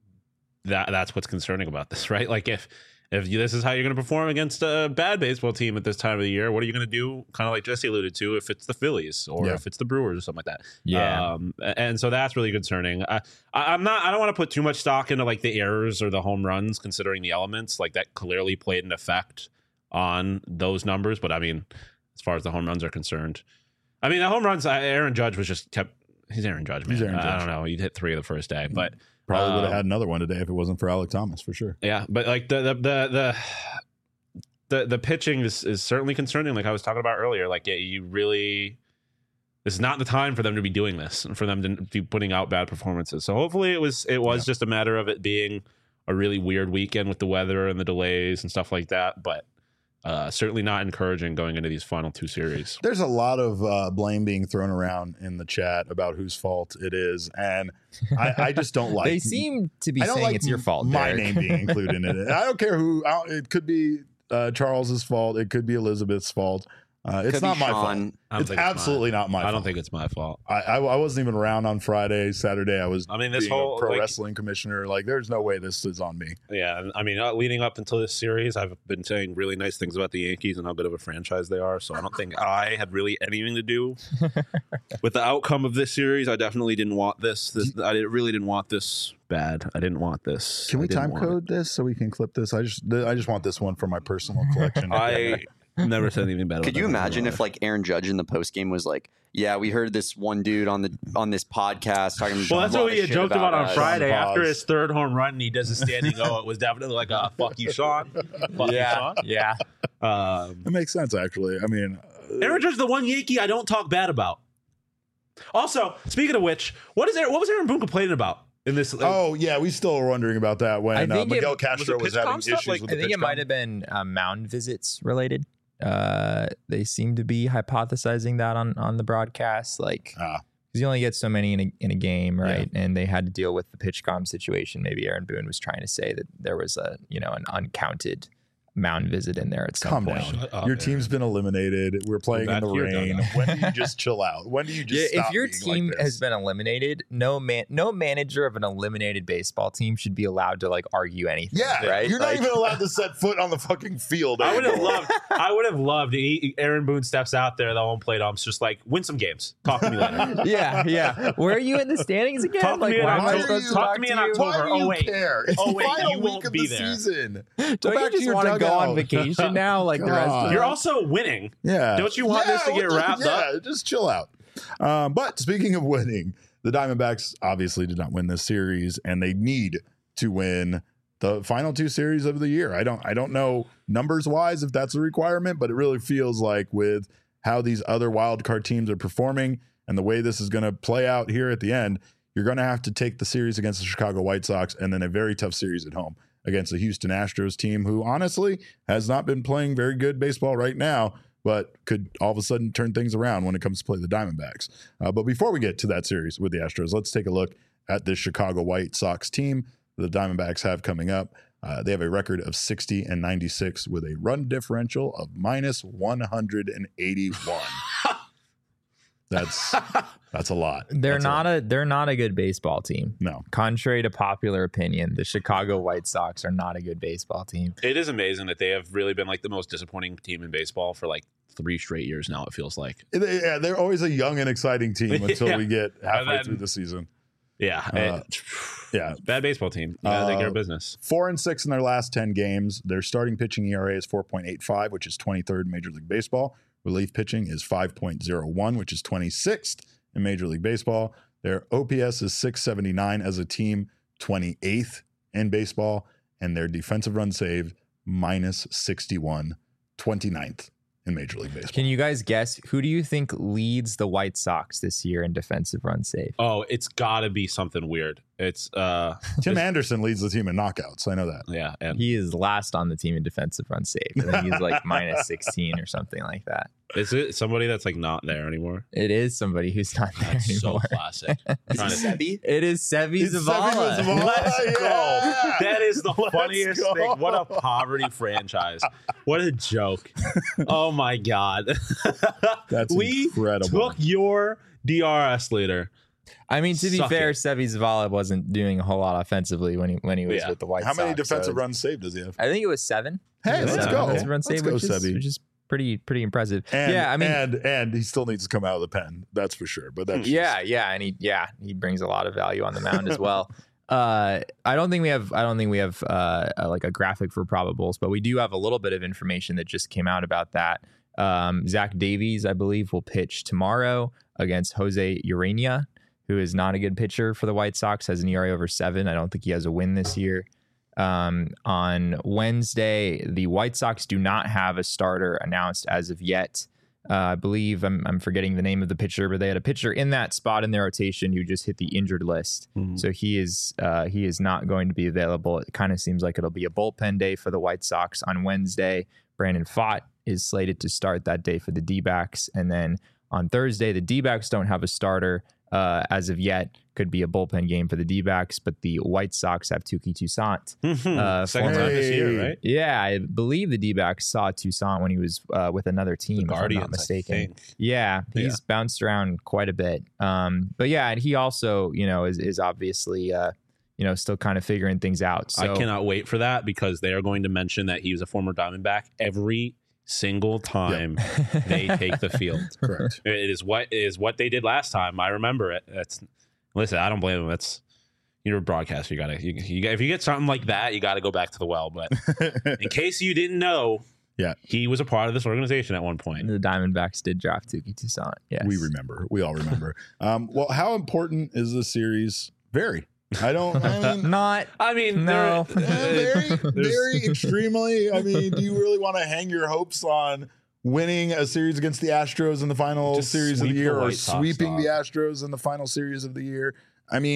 A: that that's what's concerning about this, right? Like if if this is how you're going to perform against a bad baseball team at this time of the year, what are you going to do? Kind of like Jesse alluded to, if it's the Phillies or
B: Yeah.
A: if it's the Brewers or something like that.
C: Yeah.
A: Um, and so that's really concerning. I, I, I'm not. I don't want to put too much stock into like the errors or the home runs, considering the elements like that clearly played an effect on those numbers. But I mean, as far as the home runs are concerned, I mean the home runs. I- Aaron Judge was just kept. He's Aaron Judge, man.
B: He's Aaron
A: I- I
B: Judge.
A: don't know. He'd hit three of the first day, but
B: Probably would have
A: Um,
B: had another one today if it wasn't for Alec Thomas, for sure.
A: yeah. But like the the the the the, the pitching is, is certainly concerning. Like I was talking about earlier. Like yeah, you really. This is not the time for them to be doing this and for them to be putting out bad performances. So hopefully it was it was
B: Yeah.
A: just a matter of it being a really weird weekend with the weather and the delays and stuff like that. But uh, certainly not encouraging going into these final two series.
B: There's a lot of uh, blame being thrown around in the chat about whose fault it is, and I, I just don't like.
C: They seem to be
B: I don't
C: saying
B: like
C: it's your fault.
B: My
C: Derek.
B: name being included in it. I don't care who. I don't, it could be uh, Charles's fault. It could be Elizabeth's fault. Uh, it's
D: Could
B: not
D: be
B: my
D: Sean.
B: fault.
A: I don't
B: It's
A: think
B: absolutely not my
A: I
B: fault.
A: don't think it's my fault.
B: I, I I wasn't even around on Friday, Saturday. I was.
A: I mean, this
B: being
A: whole
B: a pro
A: like,
B: wrestling commissioner. Like, there's no way this is on me.
A: yeah. and I mean, uh, leading up until this series, I've been saying really nice things about the Yankees and how good of a franchise they are. So I don't think I had really anything to do with the outcome of this series. I definitely didn't want this. This I didn't- really didn't want this bad. I didn't want this.
B: Can
A: I
B: we
A: didn't
B: time
A: want it.
B: code this so we can clip this? I just I just want this one for my personal collection.
A: I never said anything bad. about
D: Could you
A: that.
D: imagine if like Aaron Judge in the post game was like, "Yeah, we heard this one dude on the on this podcast talking."
A: Well, that's
D: a lot
A: what we
D: of
A: had
D: shit
A: joked about, on
D: us."
A: Friday
B: Sean
A: after
B: Paz.
A: his third home run, and he does a standing O. It was definitely like a fuck you, Sean. Fuck
C: Yeah.
A: you,
C: Yeah.
A: Sean. Um,
B: It makes sense, actually. I mean, uh,
A: Aaron Judge, the one Yankee I don't talk bad about. Also, speaking of which, what is Aaron, what was Aaron Boone complaining about? in this.
B: Oh yeah, we still are wondering about that when uh,
C: think it-
B: Miguel
C: was
B: Castro
A: it
B: was,
A: pitch
B: having
A: com stuff?
B: issues
A: Like,
B: with
C: I
B: the
C: think
B: pitch
C: it might
B: com.
C: have been uh, mound visits related. Uh, they seem to be hypothesizing that on on the broadcast, like
B: Ah.
C: because you only get so many in a in a game, right? And they had to deal with the pitchcom situation. Maybe Aaron Boone was trying to say that there was a you know an uncounted mound visit in there at some
B: Calm
C: point.
B: down.
A: Shut up,
B: Your
A: man.
B: team's been eliminated. We're playing in
A: back
B: the
A: here,
B: rain.
A: Doug.
B: When do you just chill out? When do you just
C: Yeah,
B: stop
C: if your
B: being
C: team
B: like this?
C: has been eliminated, no man, no manager of an eliminated baseball team should be allowed to like argue anything.
B: Yeah,
C: right.
B: you're not
C: Like-
B: even allowed to set foot on the fucking field.
A: I would have
B: anymore.
A: loved. I would have loved. he- Aaron Boone steps out there, the home plate ump's just like, win some games. Talk to me later.
C: Yeah, yeah. Where are you in the standings again?
A: Talk to
C: like,
A: me in
C: why am I
B: October.
C: supposed to
A: Talk
C: talk
A: to me
C: to
A: in
C: you?
A: October.
B: Why do
A: Oh,
B: you
A: wait.
B: care? It's
A: Oh,
B: the
A: wait,
B: final
A: you
B: week
A: won't
B: of
A: be
B: the
A: there.
B: season.
C: Don't
B: Go
C: you
B: back to
C: just
B: your
C: want to go on
B: dugout.
C: vacation now, like the rest
B: God.
C: of
A: You're
C: them?
A: also winning.
B: Yeah.
A: Don't you want this to
B: what
A: get
B: the-
A: wrapped
B: yeah,
A: up?
B: just chill out. Um, but speaking of winning, the Diamondbacks obviously did not win this series, and they need to win the final two series of the year. I don't I don't know numbers wise if that's a requirement, but it really feels like with how these other wild card teams are performing and the way this is going to play out here at the end, you're going to have to take the series against the Chicago White Sox and then a very tough series at home against the Houston Astros team, who honestly has not been playing very good baseball right now, but could all of a sudden turn things around when it comes to play the Diamondbacks. Uh, but before we get to that series with the Astros, let's take a look at this Chicago White Sox team the Diamondbacks have coming up. Uh, they have a record of sixty and ninety-six with a run differential of minus one hundred eighty-one. That's that's a lot.
C: They're
B: That's
C: not
B: lot.
C: a they're not a good baseball team.
B: No.
C: Contrary to popular opinion, the Chicago White Sox are not a good baseball team.
A: It is amazing that they have really been like the most disappointing team in baseball for like three straight years now. It feels like.
B: They- yeah, they're always a young and exciting team until
A: Yeah.
B: we get halfway
A: then-
B: through the season.
A: Yeah,
B: Uh,
A: it-
B: yeah.
A: bad baseball team. You gotta take care of
B: Uh,
A: business.
B: Four and six in their last ten games. Their starting pitching E R A is four point eight five, which is twenty-third in Major League Baseball. Relief pitching is five point oh one, which is twenty-sixth in Major League Baseball. Their O P S is six seventy-nine as a team, twenty-eighth in baseball, and their defensive run saved minus sixty-one, twenty-ninth in Major League Baseball.
C: Can you guys guess who do you think leads the White Sox this year in defensive run save?
A: Oh, it's got to be something weird. It's uh,
B: Tim
A: it's-
B: Anderson leads the team in knockouts. I know that.
A: yeah, and
C: He is last on the team in defensive run save. I think he's like minus sixteen or something like that.
A: is it somebody that's like not there anymore?
C: It is somebody who's not there
A: That's so
C: anymore.
A: classic. Trying to-
C: It is Sevi
B: It's
C: Zavala.
B: Sevi Zavala.
A: Let's
B: Yeah.
A: go. That is the
B: Let's
A: funniest
B: go.
A: thing. What a poverty franchise. What a joke. Oh my God.
B: That's
A: we
B: incredible.
A: took your D R S leader.
C: I mean, to be
A: Suck
C: fair,
A: it.
C: Sevi Zavala wasn't doing a whole lot offensively when he when he was
A: Yeah.
C: with the White
B: How
C: Sox.
B: many
C: so
B: defensive
C: it's-
B: runs saved does he have?
C: I think it was seven.
B: Hey,
C: It was
B: let's
C: seven
B: go.
C: defensive run
B: Let's
C: save,
B: go,
C: which is,
B: Sevi.
C: which is pretty pretty impressive.
B: And,
C: yeah, I mean,
B: and and he still needs to come out of the pen. That's for sure. But that's
C: yeah, yeah, and he yeah he brings a lot of value on the mound as well. Uh, I don't think we have I don't think we have uh, a, like a graphic for probables, but we do have a little bit of information that just came out about that. Um, Zach Davies, I believe, will pitch tomorrow against Jose Urania, who is not a good pitcher for the White Sox, has an E R A over seven. I don't think he has a win this year. Um, on Wednesday, the White Sox do not have a starter announced as of yet. Uh, I believe I'm, I'm forgetting the name of the pitcher, but they had a pitcher in that spot in their rotation who just hit the injured list.
A: Mhm.
C: So he is uh, he is not going to be available. It kind of seems like it'll be a bullpen day for the White Sox on Wednesday. Brandon Pfaadt is slated to start that day for the D-backs. And then on Thursday, the D-backs don't have a starter uh, as of yet. Could be a bullpen game for the D-backs, but the White Sox have Tuki Toussaint. Uh,
A: Second
C: former-
A: time this year,
B: Hey.
A: right?
C: Yeah, I believe the D-backs saw Toussaint when he was uh, with another team,
A: The
C: if I'm
A: Guardians,
C: not mistaken.
A: I think.
C: Yeah, he's
A: Yeah.
C: bounced around quite a bit. Um, but yeah, and he also, you know, is is obviously, uh, you know, still kind of figuring things out. So
A: I cannot wait for that because they are going to mention that he was a former Diamondback every single time they take the field.
B: correct.
A: It is what it is what they did last time. I remember it. That's listen. I don't blame them. That's you're a broadcaster. You gotta. You, you, if you get something like that, you got to go back to the well. But in case you didn't know,
B: Yeah.
A: he was a part of this organization at one point.
C: the Diamondbacks did draft Tuki Toussaint. Yes,
B: We remember. We all remember. um, well, how important is this series? Very. I don't. I mean,
C: Not.
A: I mean,
C: No.
A: there-
B: eh, very,
A: there's-
B: very extremely. I mean, do you really want to hang your hopes on winning a series against the Astros in the final
A: Just
B: series of
A: sweep
B: the
A: the
B: year, or
A: White Sox,
B: sweeping
A: dog.
B: the Astros in the final series of the year? I mean,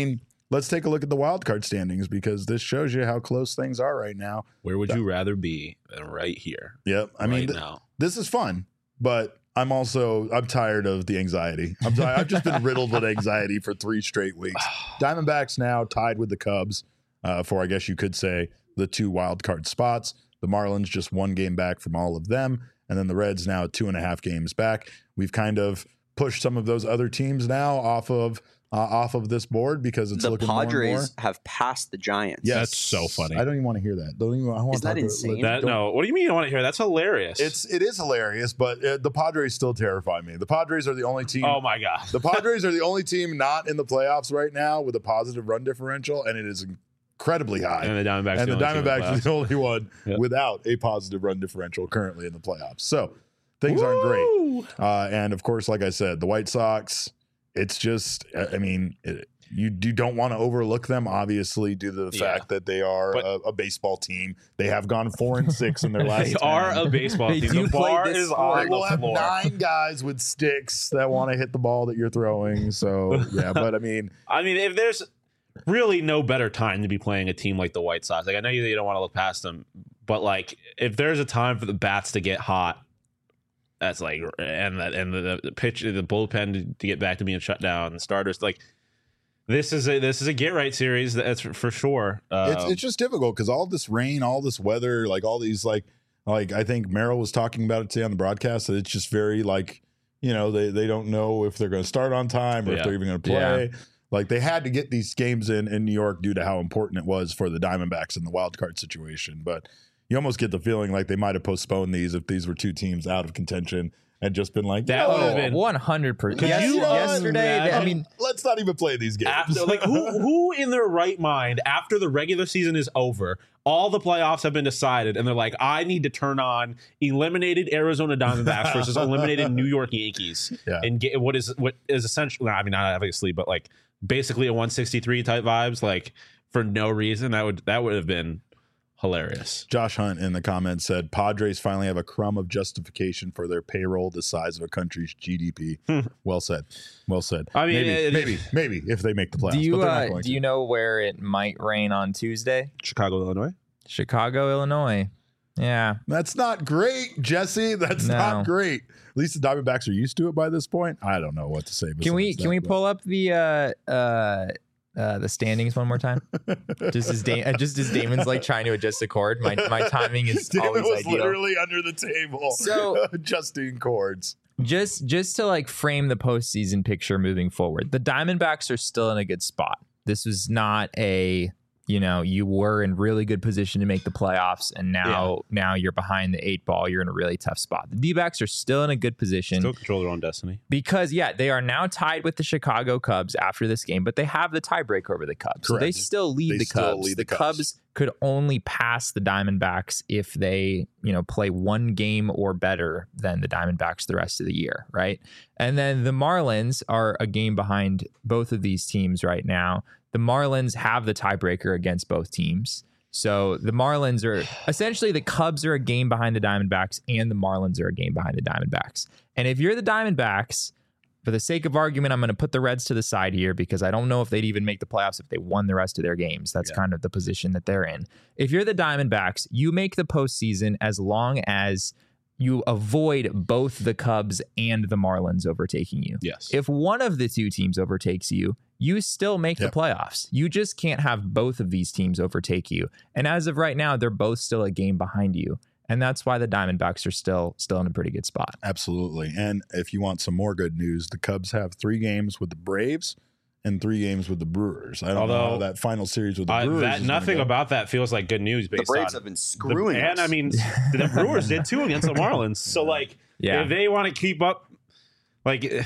B: let's take a look at the wild card standings because this shows you how close things are right now.
A: Where would you rather be than right here?
B: Yep. I mean,
A: right
B: th-
A: now.
B: this is fun, but I'm also I'm tired of the anxiety. I'm t- I've just been riddled with anxiety for three straight weeks. Diamondbacks now tied with the Cubs uh, for I guess you could say the two wild card spots. The Marlins just one game back from all of them, and then the Reds now two and a half games back. We've kind of pushed some of those other teams now off of uh, off of this board because it's
D: The
B: looking more and more.
D: Padres have passed the Giants.
B: Yes.
A: That's so funny.
B: I don't even want to hear that. Don't even. I want
D: Isn't
B: to
D: that
B: talk
D: insane?
A: That,
B: don't-
A: no, what do you mean you don't want to hear? That's hilarious.
B: It's it is hilarious, but uh, the Padres still terrify me. The Padres are the only team.
A: oh my god.
B: The Padres are the only team not in the playoffs right now with a positive run differential, and it is incredibly high.
A: And the Diamondbacks.
B: And the
A: only team in
B: Diamondbacks are
A: playoffs.
B: the only one
A: Yep.
B: without a positive run differential currently in the playoffs. So things aren't great.
A: Woo!
B: Uh, and of course, like I said, the White Sox. It's just, I I mean, it, you you don't want to overlook them, obviously, due to the
A: Yeah.
B: fact that they are
A: But-
B: a, a baseball team. They have gone four and six in their last.
A: They
B: ten.
A: are a baseball
C: They
A: team.
C: do
A: The
C: play
A: bar
C: this
A: is
C: sport.
A: on
B: They will
A: the
B: have
A: floor.
B: nine guys with sticks that want to hit the ball that you're throwing. So yeah, but I mean,
A: I mean, if there's really no better time to be playing a team like the White Sox, like I know you, you don't want to look past them, but like if there's a time for the bats to get hot, that's like and that and the, the pitch, the bullpen to, to get back to being shut down, the starters like this is a this is a get right series. That's for, for sure. Um,
B: it's it's just difficult because all this rain, all this weather, like all these like like I think Merrill was talking about it today on the broadcast that it's just very like you know they they don't know if they're going to start on time or
A: Yeah.
B: if they're even going to play. Like they had to get these games in in New York due to how important it was for the Diamondbacks in the wild card situation. But you almost get the feeling like they might have postponed these if these were two teams out of contention and just been like,
A: That
B: "No,
A: would have been-
C: one hundred percent.
A: Could you
C: Yesterday, they- I
A: imagine-
C: mean,
B: let's not even play these games."
A: After, like who who in their right mind after the regular season is over, all the playoffs have been decided, and they're like, I need to turn on eliminated Arizona Diamondbacks versus eliminated New York Yankees,
B: Yeah.
A: and get what is what is essentially, I mean, not obviously, but like basically a one sixty-three type vibes, like for no reason. That would that would have been hilarious.
B: Josh Hunt in the comments said Padres finally have a crumb of justification for their payroll the size of a country's G D P. Well said. Well said.
A: I mean,
B: maybe,
A: it-
B: maybe, maybe if they make the playoffs.
C: do you
B: but they're not
C: uh,
B: going
C: do
B: to.
C: you know where it might rain on Tuesday?
A: Chicago, Illinois.
C: Chicago, Illinois. Yeah.
B: That's not great, Jesse. That's
C: No.
B: not great. At least the Diamondbacks are used to it by this point. I don't know what to say.
C: Can we
B: besides
C: can
B: that,
C: we
B: but-
C: pull up the uh uh uh the standings one more time? just as da- uh, just as Damon's like trying to adjust the cord. My my timing is
B: Damon
C: always
B: was
C: ideal.
B: literally under the table,
C: So-
B: adjusting cords.
C: just just to like frame the postseason picture moving forward, the Diamondbacks are still in a good spot. This was not a, you know, you were in really good position to make the playoffs, and now now you're behind the eight ball. You're in a really tough spot. The D-backs are still in a good position
A: Still control their own destiny.
C: because, yeah, they are now tied with the Chicago Cubs after this game, but they have the tiebreaker over the Cubs. So they
B: Correct.
C: still lead
B: They
C: the
B: still
C: Cubs.
B: lead
C: the
B: the Cubs.
C: Cubs could only pass the Diamondbacks if they, you know, play one game or better than the Diamondbacks the rest of the year, right? And then the Marlins are a game behind both of these teams right now. The Marlins have the tiebreaker against both teams. So the Marlins are essentially the Cubs are a game behind the Diamondbacks and the Marlins are a game behind the Diamondbacks. And if you're the Diamondbacks, for the sake of argument, I'm going to put the Reds to the side here because I don't know if they'd even make the playoffs if they won the rest of their games. That's
A: Yeah.
C: kind of the position that they're in. If you're the Diamondbacks, you make the postseason as long as you avoid both the Cubs and the Marlins overtaking you.
A: Yes.
C: If one of the two teams overtakes you, you still make
B: Yep.
C: the playoffs. You just can't have both of these teams overtake you. And as of right now, they're both still a game behind you. And that's why the Diamondbacks are still still in a pretty good spot.
B: Absolutely. And if you want some more good news, the Cubs have three games with the Braves and three games with the Brewers. I don't know
A: Although,
B: how that final series with the
A: I,
B: Brewers
A: that
B: is gonna
A: nothing
B: go.
A: about that feels like good news
D: The
A: based
D: Braves
A: on
D: have been
A: the-
D: screwing
A: and
D: us.
A: I mean the Brewers did too against the Marlins. So like
C: Yeah.
A: if they want to keep up, like eh,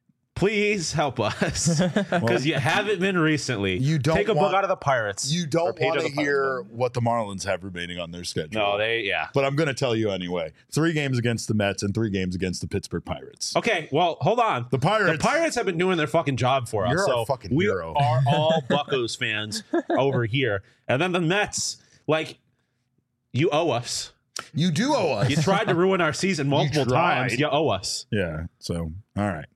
A: please help us because you haven't been recently.
B: You don't
A: take a
B: want-
A: book out of the Pirates.
B: You
A: Or
B: don't
A: page
B: want
A: of
B: to
A: the Pirates
B: hear
A: book.
B: what the Marlins have remaining on their schedule.
A: No, they yeah.
B: But I'm going to tell you anyway. Three games against the Mets and three games against the Pittsburgh Pirates.
A: Okay, well, hold on.
B: The Pirates.
A: The Pirates have been doing their fucking job for us.
B: You're
A: so
B: a fucking
A: we
B: hero.
A: are all Buccos fans over here. And then the Mets, like, you owe us.
B: You do owe us.
A: You tried to ruin our season multiple
B: tried.
A: times. You owe us.
B: Yeah. So, all right.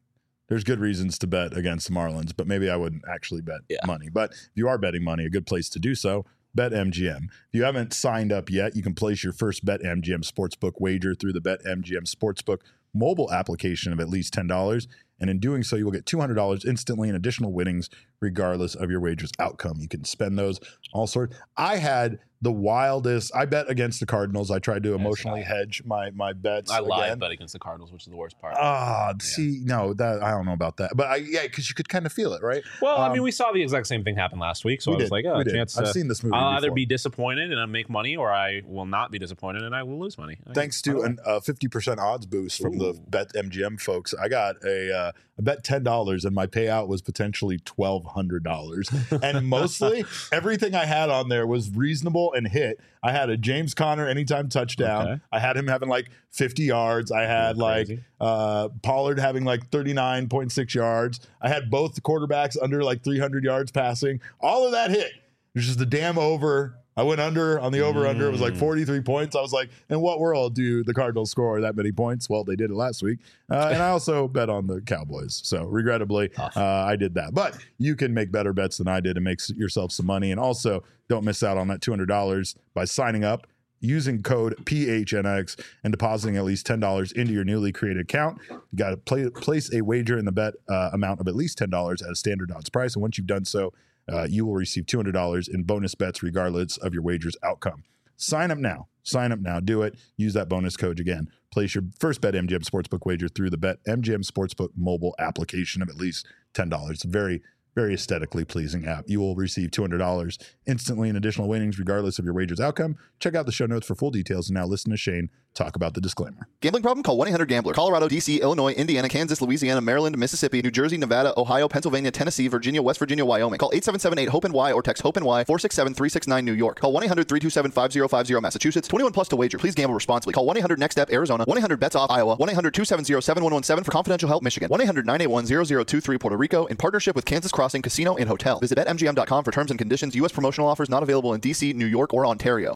B: there's good reasons to bet against the Marlins, but maybe I wouldn't actually bet
A: Yeah.
B: money. But if you are betting money, a good place to do so, BetMGM. If you haven't signed up yet, you can place your first BetMGM Sportsbook wager through the BetMGM Sportsbook mobile application of at least ten dollars. And in doing so, you will get two hundred dollars instantly in additional winnings, regardless of your wager's outcome. You can spend those all sorts. I had the wildest. I bet against the Cardinals. I tried to emotionally hedge my my bets.
A: I lied,
B: again.
A: but against the Cardinals, which is the worst part.
B: Ah, see, no, that I don't know about that, but I yeah, because you could kind of feel it, right?
A: well, I
B: um,
A: mean, we saw the exact same thing happen last week, so
B: we
A: I was
B: did,
A: like, oh,
B: we
A: a
B: did.
A: chance.
B: I've
A: to-
B: seen this movie.
A: I'll either
B: before.
A: be disappointed and I make money, or I will not be disappointed and I will lose money. I-
B: Thanks
A: I
B: to
A: don't
B: an- a fifty percent odds boost from the
A: Ooh.
B: BetMGM folks, I got a uh, I bet ten dollars and my payout was potentially twelve hundred dollars. And mostly everything I had on there was reasonable and hit. I had a James Conner anytime touchdown.
A: Okay.
B: I had him having like fifty yards. I had
A: Oh,
B: like
A: crazy.
B: uh, Pollard having like thirty-nine point six yards. I had both the quarterbacks under like three hundred yards passing. All of that hit. It was just a damn over. I went under on the over under. It was like
A: Mm.
B: forty-three points. I was like, in what world do the Cardinals score that many points? Well, they did it last week. Uh, and I also bet on the Cowboys. So regrettably,
A: Tough.
B: uh, I did that. But you can make better bets than I did and make s- yourself some money. And also, don't miss out on that two hundred dollars by signing up, using code P H N X, and depositing at least ten dollars into your newly created account. You got to play, place a wager in the bet uh, amount of at least ten dollars at a standard odds price. And once you've done so, uh, you will receive two hundred dollars in bonus bets regardless of your wager's outcome. Sign up now. Sign up now. Do it. Use that bonus code again. Place your first BetMGM Sportsbook wager through the BetMGM Sportsbook mobile application of at least ten dollars. It's a very, very aesthetically pleasing app. You will receive two hundred dollars instantly in additional winnings regardless of your wager's outcome. Check out the show notes for full details. And now listen to Shane talk about the disclaimer.
E: Gambling problem? Call one eight hundred gambler. Colorado, D C, Illinois, Indiana, Kansas, Louisiana, Maryland, Mississippi, New Jersey, Nevada, Ohio, Pennsylvania, Tennessee, Virginia, West Virginia, Wyoming. Call eight seven seven eight hope N Y or text HOPE-NY four six seven three six nine New York. Call one eight hundred three two seven five zero five zero Massachusetts. twenty-one plus to wager. Please gamble responsibly. Call one eight hundred next step Arizona. one eight hundred bets off Iowa. one eight hundred two seven zero seven one one seven for confidential help Michigan. one eight hundred nine eight one zero zero two three Puerto Rico in partnership with Kansas Crossing Casino and Hotel. Visit bet M G M dot com for terms and conditions. U S promotional offers not available in D C, New York, or Ontario.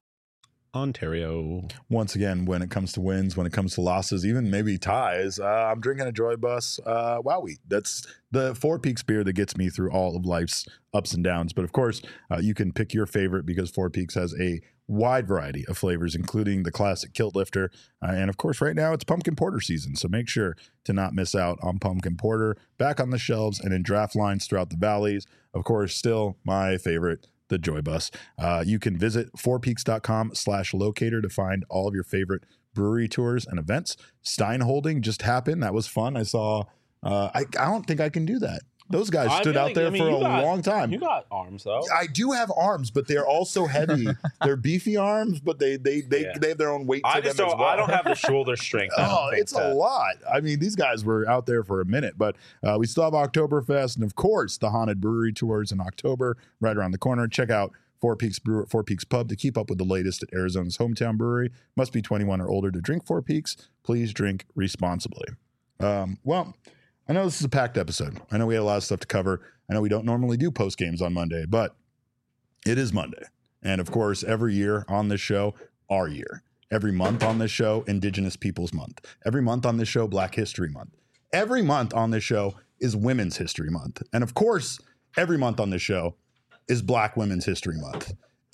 A: Ontario.
B: Once again, when it comes to wins, when it comes to losses, even maybe ties, uh, I'm drinking a Joy Bus uh, Wowie. That's the Four Peaks beer that gets me through all of life's ups and downs. But of course, uh, you can pick your favorite because Four Peaks has a wide variety of flavors, including the classic Kilt Lifter. Uh, and of course, right now it's pumpkin porter season. So make sure to not miss out on pumpkin porter back on the shelves and in draft lines throughout the valleys. Of course, still my favorite, the Joy Bus. Uh, you can visit fourpeaks.com slash locator to find all of your favorite brewery tours and events. Stein Holding just happened. That was fun. I saw, uh, I, I don't think I can do that. Those guys
A: I
B: stood
A: feel
B: out
A: like-
B: there
A: I mean,
B: for
A: you
B: a
A: got-
B: long time.
A: You got arms though.
B: I do have arms, but they're also heavy. They're beefy arms, but they they they,
A: Yeah.
B: they have their own weight to
A: I
B: them
A: just
B: as
A: don't.
B: well.
A: I don't have the shoulder strength. I don't
B: Oh,
A: think
B: it's
A: to-
B: a lot. I mean, these guys were out there for a minute, but uh, we still have Oktoberfest and, of course, the Haunted Brewery Tours in October right around the corner. Check out Four Peaks Brewer, Four Peaks Pub to keep up with the latest at Arizona's hometown brewery. Must be twenty-one or older to drink Four Peaks. Please drink responsibly. Um, well, I know this is a packed episode. I know we had a lot of stuff to cover. I know we don't normally do post games on Monday, but it is Monday. And of course, every year on this show, our year. Every month on this show, Indigenous Peoples Month. Every month on this show, Black History Month. Every month on this show is Women's History Month. And of course, every month on this show is Black Women's History Month.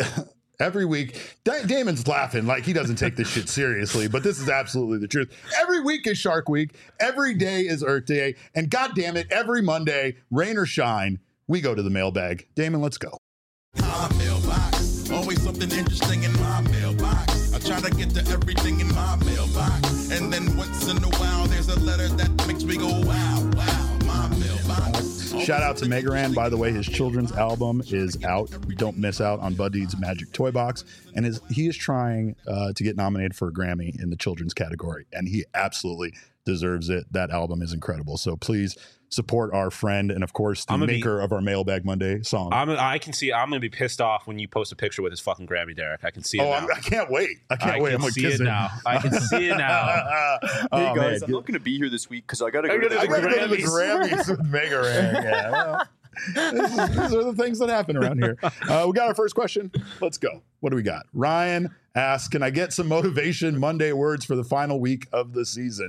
B: Every week, Da- Damon's laughing like he doesn't take this shit seriously, but this is absolutely the truth. Every week is Shark Week. Every day is Earth Day. And God damn it, every Monday, rain or shine, we go to the mailbag. Damon, let's go.
F: My mailbox, always something interesting in my mailbox. I try to get to everything in my mailbox, and then once in a while there's a letter that makes me go wow, wow. My mailbox.
B: Shout out to Megaran, by the way. His children's album is out. Don't miss out on Bud Deed's Magic Toy Box. And his, he is trying uh, to get nominated for a Grammy in the children's category. And he absolutely deserves it. That album is incredible. So please support our friend and, of course, the
A: I'm gonna
B: maker
A: be-
B: of our Mailbag Monday song.
A: I'm. I can see. I'm gonna be pissed off when you post a picture with his fucking Grammy, Derek. I can see it
B: oh,
A: now.
B: I'm, I can't wait. I can't
A: I
B: wait.
A: can
B: I'm going to
A: see
B: kiss
A: it
B: him.
A: now. I can see it now.
D: Hey
B: oh,
D: guys,
B: man.
D: I'm not going to be here this week because I got to
A: I
D: go to
A: gotta
D: the
B: I gotta go to the
A: Grammys.
B: Grammys with Megaran. Yeah, well, this is- these are the things that happen around here. Uh, we got our first question. Let's go. What do we got? Ryan asks, can I get some motivation Monday words for the final week of the season?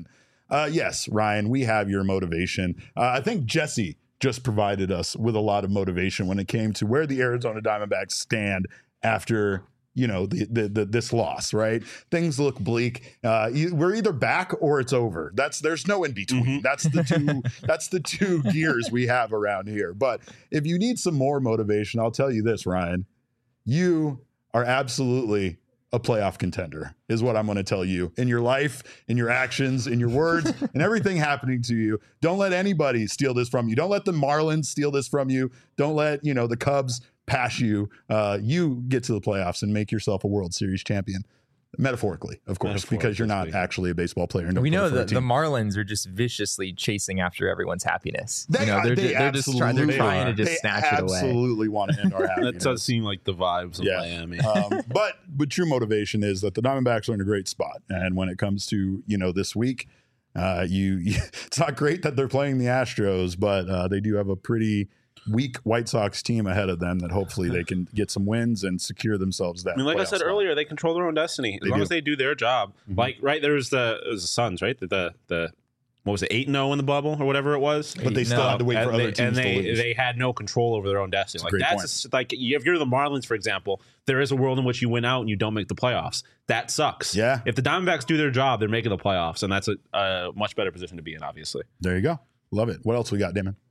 B: uh, yes, Ryan, we have your motivation. Uh, I think Jesse just provided us with a lot of motivation when it came to where the Arizona Diamondbacks stand after, you know, the, the, the this loss, right? Things look bleak. Uh, you, we're either back or it's over. That's there's no in between.
A: Mm-hmm.
B: That's the two. That's the two gears we have around here. But if you need some more motivation, I'll tell you this, Ryan. You are absolutely a playoff contender, is what I'm going to tell you in your life, in your actions, in your words, and everything happening to you. Don't let anybody steal this from you. Don't let the Marlins steal this from you. Don't let, you know, the Cubs pass you. Uh, you get to the playoffs and make yourself a World Series champion. Metaphorically, of course, because you're not actually a baseball player.
C: We know that the Marlins are just viciously chasing after everyone's happiness.
B: They
C: you know,
B: are,
C: they're,
B: they
C: just, they're just trying. They're trying to just
B: they
C: snatch it away.
B: Absolutely want to end our happiness.
A: That does seem like the vibes of
B: Yeah.
A: Miami.
B: um, but but true motivation is that the Diamondbacks are in a great spot, and when it comes to, you know, this week, uh, you, you it's not great that they're playing the Astros, but uh, they do have a pretty weak White Sox team ahead of them that hopefully they can get some wins and secure themselves that.
A: I mean, like I
B: playoff
A: said
B: spot.
A: earlier, they control their own destiny as
B: They
A: long
B: do.
A: as they do their job.
B: Mhm.
A: Like, right there was the it was the Suns, right? The the, the what was it, eight and zero in the bubble or whatever it was.
B: But they still
C: No.
B: had to wait for
A: and
B: other
A: they,
B: teams
A: and
B: to
A: they
B: lose.
A: they had no control over their own destiny.
B: That's a
A: Like
B: great
A: that's
B: point.
A: just, like if you're the Marlins, for example, there is a world in which you win out and you don't make the playoffs. That sucks.
B: Yeah.
A: If the Diamondbacks do their job, they're making the playoffs, and that's a, a much better position to be in, obviously.
B: There you go. Love it. What else we got, Damon?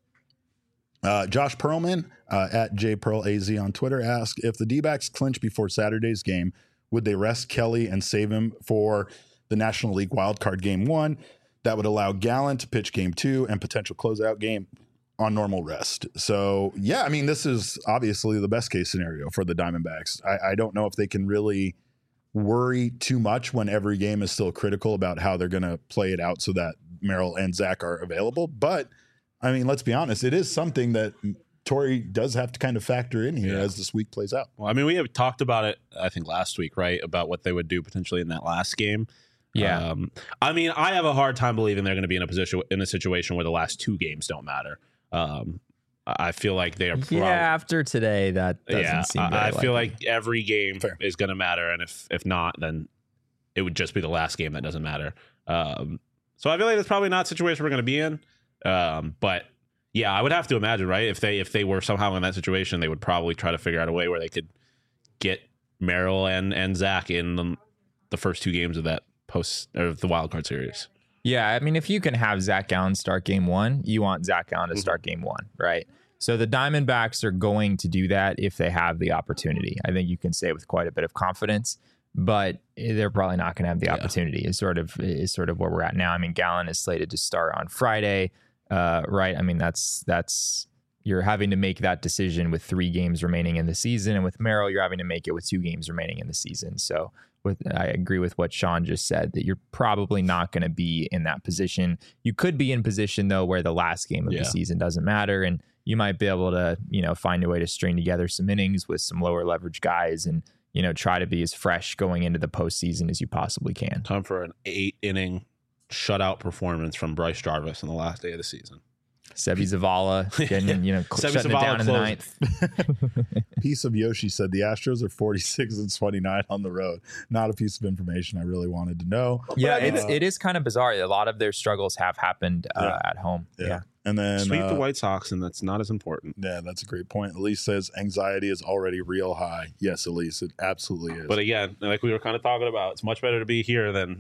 B: Uh, Josh Perlman uh, at JPearlAZ on Twitter asked, if the D-backs clinch before Saturday's game, would they rest Kelly and save him for the National League wildcard game one? That would allow Gallen to pitch game two and potential closeout game on normal rest. So, yeah, I mean, this is obviously the best case scenario for the Diamondbacks. I, I don't know if they can really worry too much when every game is still critical about how they're going to play it out so that Merrill and Zach are available. But I mean, let's be honest, it is something that Torrey does have to kind of factor in here
A: Yeah.
B: as this week plays out.
A: Well, I mean, we have talked about it, I think, last week, right? About what they would do potentially in that last game.
C: Yeah.
A: Um, I mean, I have a hard time believing they're going to be in a position in a situation where the last two games don't matter. Um, I feel like they are. Prob-
C: Yeah, after today, that doesn't
A: yeah,
C: seem
A: I,
C: very
A: I feel
C: likely.
A: like every game
B: Fair.
A: is going to matter, and if if not, then it would just be the last game that doesn't matter. Um, so I feel like that's probably not a situation we're going to be in. Um, but yeah, I would have to imagine, right? If they if they were somehow in that situation, they would probably try to figure out a way where they could get Merrill and and Zach in the, the first two games of that post or the wild card series.
C: Yeah, I mean, if you can have Zach Gallen start game one, you want Zach Gallen to start game one, right? So the Diamondbacks are going to do that if they have the opportunity. I think you can say with quite a bit of confidence, but they're probably not going to have the
A: Yeah.
C: opportunity. Is sort of is sort of where we're at now. I mean, Gallen is slated to start on Friday, uh, right? I mean, that's that's you're having to make that decision with three games remaining in the season, and with Merrill, you're having to make it with two games remaining in the season. So. With, I agree with what Sean just said, that you're probably not going to be in that position. You could be in position, though, where the last game of
A: Yeah.
C: the season doesn't matter. And you might be able to, you know, find a way to string together some innings with some lower leverage guys and, you know, try to be as fresh going into the postseason as you possibly can.
A: Time for an eight inning shutout performance from Bryce Jarvis on the last day of the season.
C: Sebi Zavala getting, you know,
A: Sebi
C: shutting
A: Zavala
C: it down in the
A: closing.
C: ninth.
B: Piece of Yoshi said the Astros are forty-six and twenty-nine on the road. Not a piece of information I really wanted to know.
C: Yeah,
B: Uh,
C: it's, it is kind of bizarre. A lot of their struggles have happened uh,
B: Yeah.
C: at home.
B: Yeah.
C: Yeah.
B: And then
A: Sweep
B: uh,
A: the White Sox, and that's not as important.
B: yeah, that's a great point. Elise says anxiety is already real high. Yes, Elise, it absolutely is.
A: But again, like we were kind of talking about, it's much better to be here than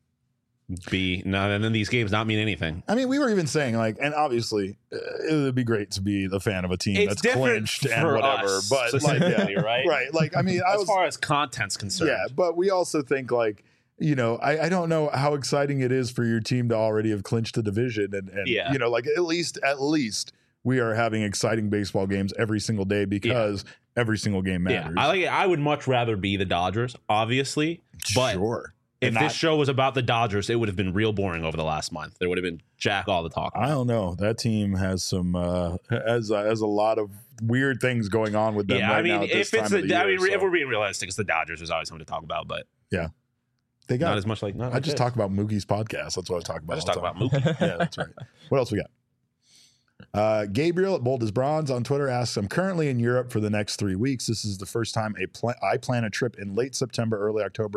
A: be no, and then these games not mean anything.
B: I mean, we were even saying like, and obviously, uh, it would be great to be the fan of a team
A: It's
B: that's
A: different
B: clinched and
A: for
B: whatever.
A: us,
B: But like, yeah,
A: specifically, right?
B: right? Like, I mean, I
A: As
B: was,
A: far as content's concerned,
B: yeah, but we also think like, you know, I, I don't know how exciting it is for your team to already have clinched the division, and, and
A: Yeah.
B: you know, like at least at least we are having exciting baseball games every single day because every single game
A: yeah.
B: matters.
A: I like it. I would much rather be the Dodgers, obviously, but
B: sure.
A: if
B: And
A: this
B: not-
A: show was about the Dodgers, it would have been real boring over the last month. There would have been jack all the talk.
B: I don't know. That team has some uh, has uh, has a lot of weird things going on with them
A: Yeah,
B: right
A: I mean,
B: now. At this
A: if it's
B: time of
A: the,
B: the
A: I
B: year,
A: mean, if
B: so.
A: we're being realistic, it's the Dodgers. There's always something to talk about, but
B: they got
A: not as much like. Not
B: I
A: like
B: just
A: this.
B: talk about Mookie's podcast. That's what I talk about.
A: I just
B: all
A: talk
B: the
A: about
B: time.
A: Mookie.
B: Yeah, that's right. What else we got? Uh, Gabriel at Bold as Bronze on Twitter asks, I'm currently in Europe for the next three weeks. This is the first time a pl- I plan a trip in late September, early October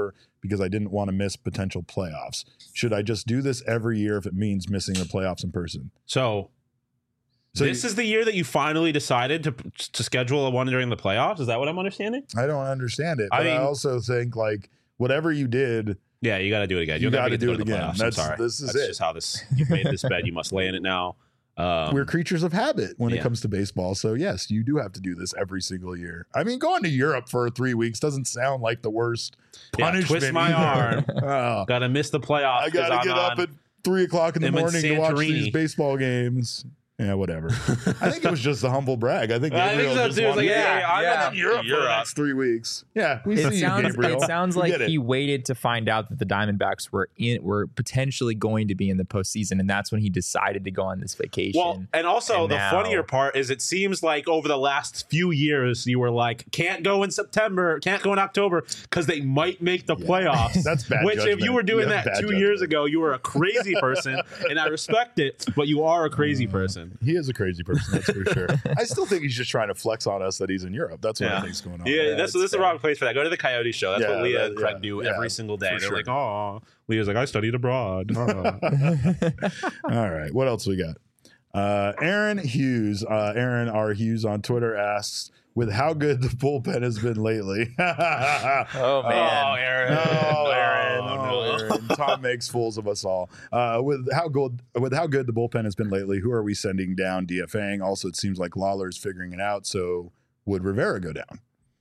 B: because I didn't want to miss potential playoffs. Should I just do this every year if it means missing the playoffs in person?
A: So,
B: So
A: this
B: you-
A: is the year that you finally decided to to schedule a one during the playoffs. Is that what I'm understanding?
B: I don't understand it,
A: I
B: but I,
A: mean-
B: also think like whatever you did,
A: Yeah, you got to do it again.
B: You
A: You'll never
B: gotta
A: get to
B: do
A: go
B: it
A: to the
B: again.
A: playoffs. I'm
B: That's-
A: sorry.
B: this is
A: That's
B: it.
A: just how this. You've made this bed. You must lay in it now. Um,
B: we're creatures of habit when
A: yeah.
B: it comes to baseball. So yes, you do have to do this every single year. I mean, going to Europe for three weeks doesn't sound like the worst
A: Yeah,
B: punishment.
A: twist my
B: either.
A: arm.
B: Oh,
A: got to miss the playoffs.
B: I gotta
A: 'cause
B: get
A: I'm
B: up
A: on-
B: at three o'clock in the
A: I'm in
B: morning to watch these
A: Santorini.
B: baseball games. Yeah, whatever. I think it was just a humble brag. I think
A: I think
B: Gabriel
A: so,
B: just
A: too. It's
B: wanted
A: like,
B: to-
A: yeah, I'm
C: yeah.
A: in
B: Europe for the
A: Europe.
B: next three weeks. Yeah, we
C: It
B: see
C: sounds,
B: you, Gabriel.
C: it sounds
B: We
C: like
B: get it.
C: he waited to find out that the Diamondbacks were in were potentially going to be in the postseason, and that's when he decided to go on this vacation.
A: Well, and also
C: And
A: the
C: now-
A: funnier part is it seems like over the last few years you were like, can't go in September, can't go in October because they might make the playoffs.
B: That's bad
A: Which if
B: judgment.
A: you were doing
B: You have
A: that
B: bad
A: two
B: judgment.
A: years ago, you were a crazy person, and I respect it, but you are a crazy person.
B: He is a crazy person, that's for sure. I still think he's just trying to flex on us that he's in Europe. That's what I
A: Yeah.
B: think's going on.
A: Yeah, that's
C: it's
A: this is the
C: fair.
A: wrong place for that. Go to the Coyote show. That's
B: Yeah,
A: what Leah
B: that-
A: and Craig
B: yeah,
A: do
B: yeah,
A: every single day.
B: for
A: They're
B: sure.
A: like, oh, Leah's like, I studied abroad. Oh.
B: All right, what else we got? Uh, Aaron Hughes, uh, Aaron R. Hughes on Twitter asks, with how good the bullpen has been lately.
C: oh man,
A: Oh, Aaron.
B: No, Aaron.
A: Oh,
B: No,
A: no.
B: Aaron. Tom makes fools of us all. Uh, with how good, with how good the bullpen has been lately, who are we sending down DFAing? Also, it seems like Lawler's figuring it out. So, would Rivera go down?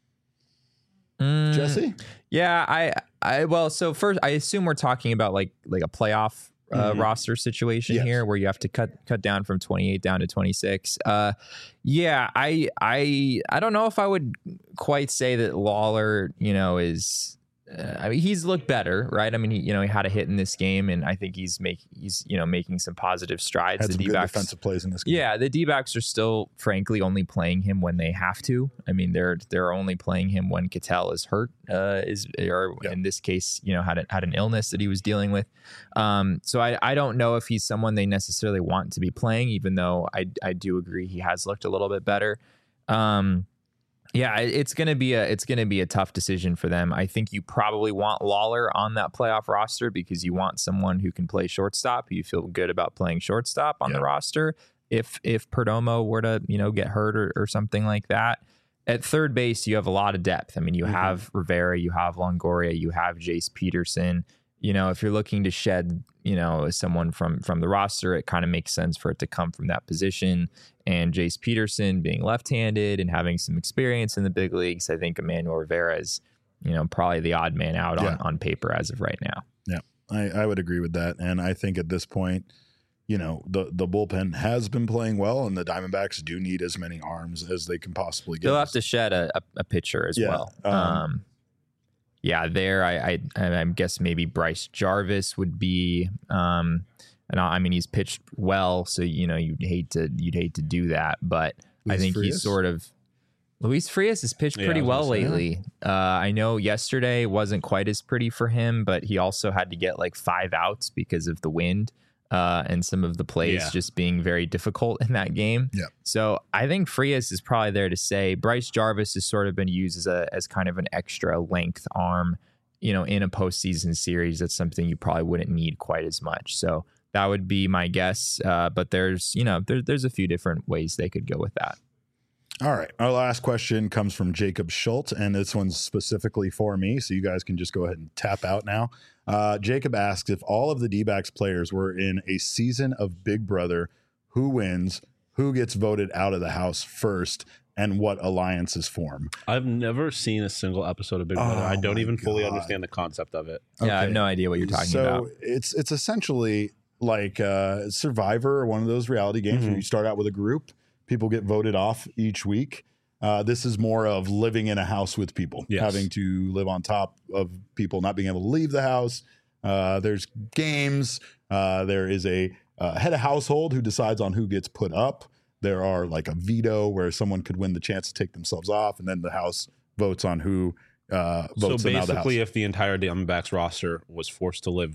C: Mm,
B: Jesse?
C: Yeah, I, I, well, so first, I assume we're talking about like like a playoff uh,
A: Mhm.
C: roster situation
B: Yes.
C: here, where you have to cut cut down from twenty-eight down to twenty-six. Uh, yeah, I, I, I don't know if I would quite say that Lawler, you know, is. Uh, I mean, he's looked better, right? I mean, he, you know, he had a hit in this game, and I think he's make he's you know making some positive strides.
B: Had
C: the
B: some good
C: D-backs,
B: defensive plays in this game.
C: yeah, the D-backs are still, frankly, only playing him when they have to. I mean, they're they're only playing him when Cattell is hurt, uh, is or
B: Yeah.
C: in this case, you know, had a, had an illness that he was dealing with. Um, so I I don't know if he's someone they necessarily want to be playing, even though I I do agree he has looked a little bit better. Um, yeah, it- it's gonna be a it's gonna be a tough decision for them. I think you probably want Lawler on that playoff roster because you want someone who can play shortstop. You feel good about playing shortstop on
B: Yeah.
C: the roster. If if Perdomo were to you know get hurt or, or something like that, at third base you have a lot of depth. I mean, you
B: Mhm.
C: have Rivera, you have Longoria, you have Jace Peterson. You know, if you're looking to shed, you know, someone from from the roster, it kind of makes sense for it to come from that position. And Jace Peterson being left-handed and having some experience in the big leagues, I think Emmanuel Rivera is, you know, probably the odd man out
B: Yeah.
C: on, on paper as of right now.
B: I, I would agree with that. And I think at this point, you know, the, the bullpen has been playing well, and the Diamondbacks do need as many arms as they can possibly get.
C: They'll have to shed a, a, a pitcher as
B: Yeah,
C: well.
B: um,
C: Um, yeah, there, I, I, I guess maybe Bryce Jarvis would be. Um, and I I mean, he's pitched well, so you know you'd hate to you'd hate to do that, but I
B: Luis
C: think
B: Frias?
C: he's sort of. Luis Frias has pitched
A: Yeah,
C: pretty
A: I was
C: well
A: gonna say.
C: lately. Uh, I know yesterday wasn't quite as pretty for him, but he also had to get like five outs because of the wind uh, and some of the plays
A: Yeah.
C: just being very difficult in that game.
B: Yeah.
C: So I think Frias is probably there to say. Bryce Jarvis has sort of been used as a as kind of an extra length arm, you know, in a postseason series. That's something you probably wouldn't need quite as much. So that would be my guess. Uh, but there's, you know, there, there's a few different ways they could go with that.
B: All right. Our last question comes from Jacob Schultz, and this one's specifically for me, so you guys can just go ahead and tap out now. Uh, Jacob asks, if all of the D-backs players were in a season of Big Brother, who wins, who gets voted out of the house first, and what alliances form?
A: I've never seen a single episode of Big Brother.
B: Oh
A: I don't
B: my
A: even fully
B: God.
A: understand the concept of it.
C: Yeah, I have
B: Okay.
C: no idea what you're talking
B: so
C: about.
B: it's it's essentially like uh, Survivor or one of those reality games
A: Mhm.
B: where you start out with a group, people get voted off each week. Uh, this is more of living in a house with people,
A: Yes.
B: having to live on top of people not being able to leave the house. Uh, there's games. Uh, there is a uh, head of household who decides on who gets put up. There are like a veto where someone could win the chance to take themselves off, and then the house votes on who uh,
A: So
B: votes them out of the house.
A: basically, if the entire Diamondbacks roster was forced to live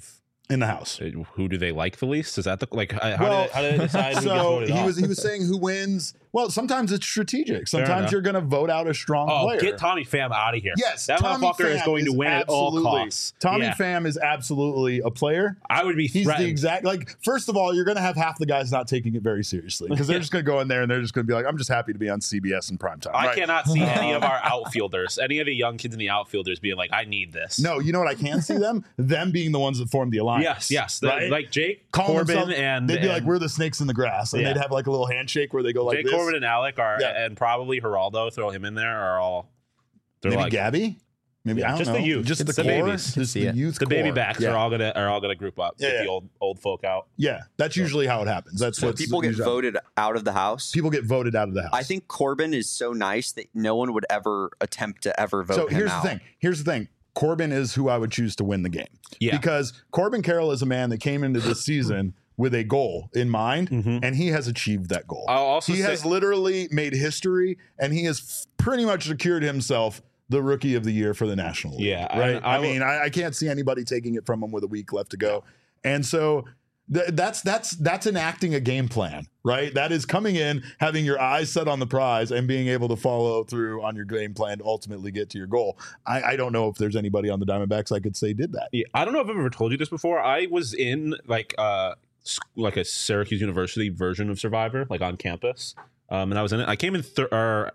B: in the house.
A: Who do they like the least? Is that the like? How,
B: Well,
A: do, they, how do they decide who gets
B: So
A: voted
B: he
A: off?
B: was he was saying who wins. Well, sometimes it's strategic. Sometimes
A: enough.
B: you're going to vote out a strong
A: Oh,
B: player.
A: get Tommy Pham out of here.
B: Yes,
A: that
B: Tommy
A: motherfucker is
B: Pham
A: going to win at all
B: absolutely-
A: costs.
B: Tommy
A: Yeah.
B: Pham is absolutely a player.
A: I would be
B: He's
A: threatened.
B: the exact like. First of all, you're going to have half the guys not taking it very seriously because they're just going to go in there and they're just going to be like, "I'm just happy to be on C B S in primetime."
A: I
B: right?
A: cannot see any of our outfielders, any of the young kids in the outfielders being like, "I need this."
B: No, you know what I can see them? Them being the ones that form the alliance.
A: Yes, yes. The-
B: right?
A: Like Jake
B: Calling
A: Corbin
B: themselves-
A: and
B: they'd be
A: and
B: like, "We're the snakes in the grass," and
A: Yeah.
B: they'd have like a little handshake where they go like
A: Jake
B: this.
A: Corbin and Alec are,
B: Yeah.
A: and probably Geraldo, throw him in there, are all. They're
B: Maybe
A: like
B: Gabby. Maybe
A: Yeah,
B: I don't
A: just
B: know.
A: the youth.
B: just
A: It's
B: the,
A: the
B: core,
A: babies.
B: just
C: See
B: the
C: it.
B: youth.
A: the baby
B: core.
A: backs
B: yeah.
A: are all gonna are all gonna group up.
B: Yeah,
A: get
B: yeah.
A: the old old folk out.
B: Yeah, that's usually how it happens. That's what
D: People get voted out of the house.
B: People get voted out of the house.
D: I think Corbin is so nice that no one would ever attempt to ever vote
B: so.
D: him
B: Here's
D: out.
B: the thing. Here's the thing. Corbin is who I would choose to win the game.
A: Yeah.
B: Because Corbin Carroll is a man that came into this season with a goal in mind,
A: Mhm.
B: and he has achieved that goal.
A: I'll also
B: he
A: say,
B: has literally made history, and he has f- pretty much secured himself the rookie of the year for the National League.
A: Yeah,
B: right.
A: I- I
B: I,
A: will-
B: mean, I, I can't see anybody taking it from him with a week left to go, and so th- that's that's that's enacting a game plan, right? That is coming in, having your eyes set on the prize, and being able to follow through on your game plan to ultimately get to your goal. I, I don't know if there's anybody on the Diamondbacks I could say did that.
A: Yeah, I don't know if I've ever told you this before. I was in like uh s- like a Syracuse University version of Survivor, like on campus, um, and I was in it. I came in third. Or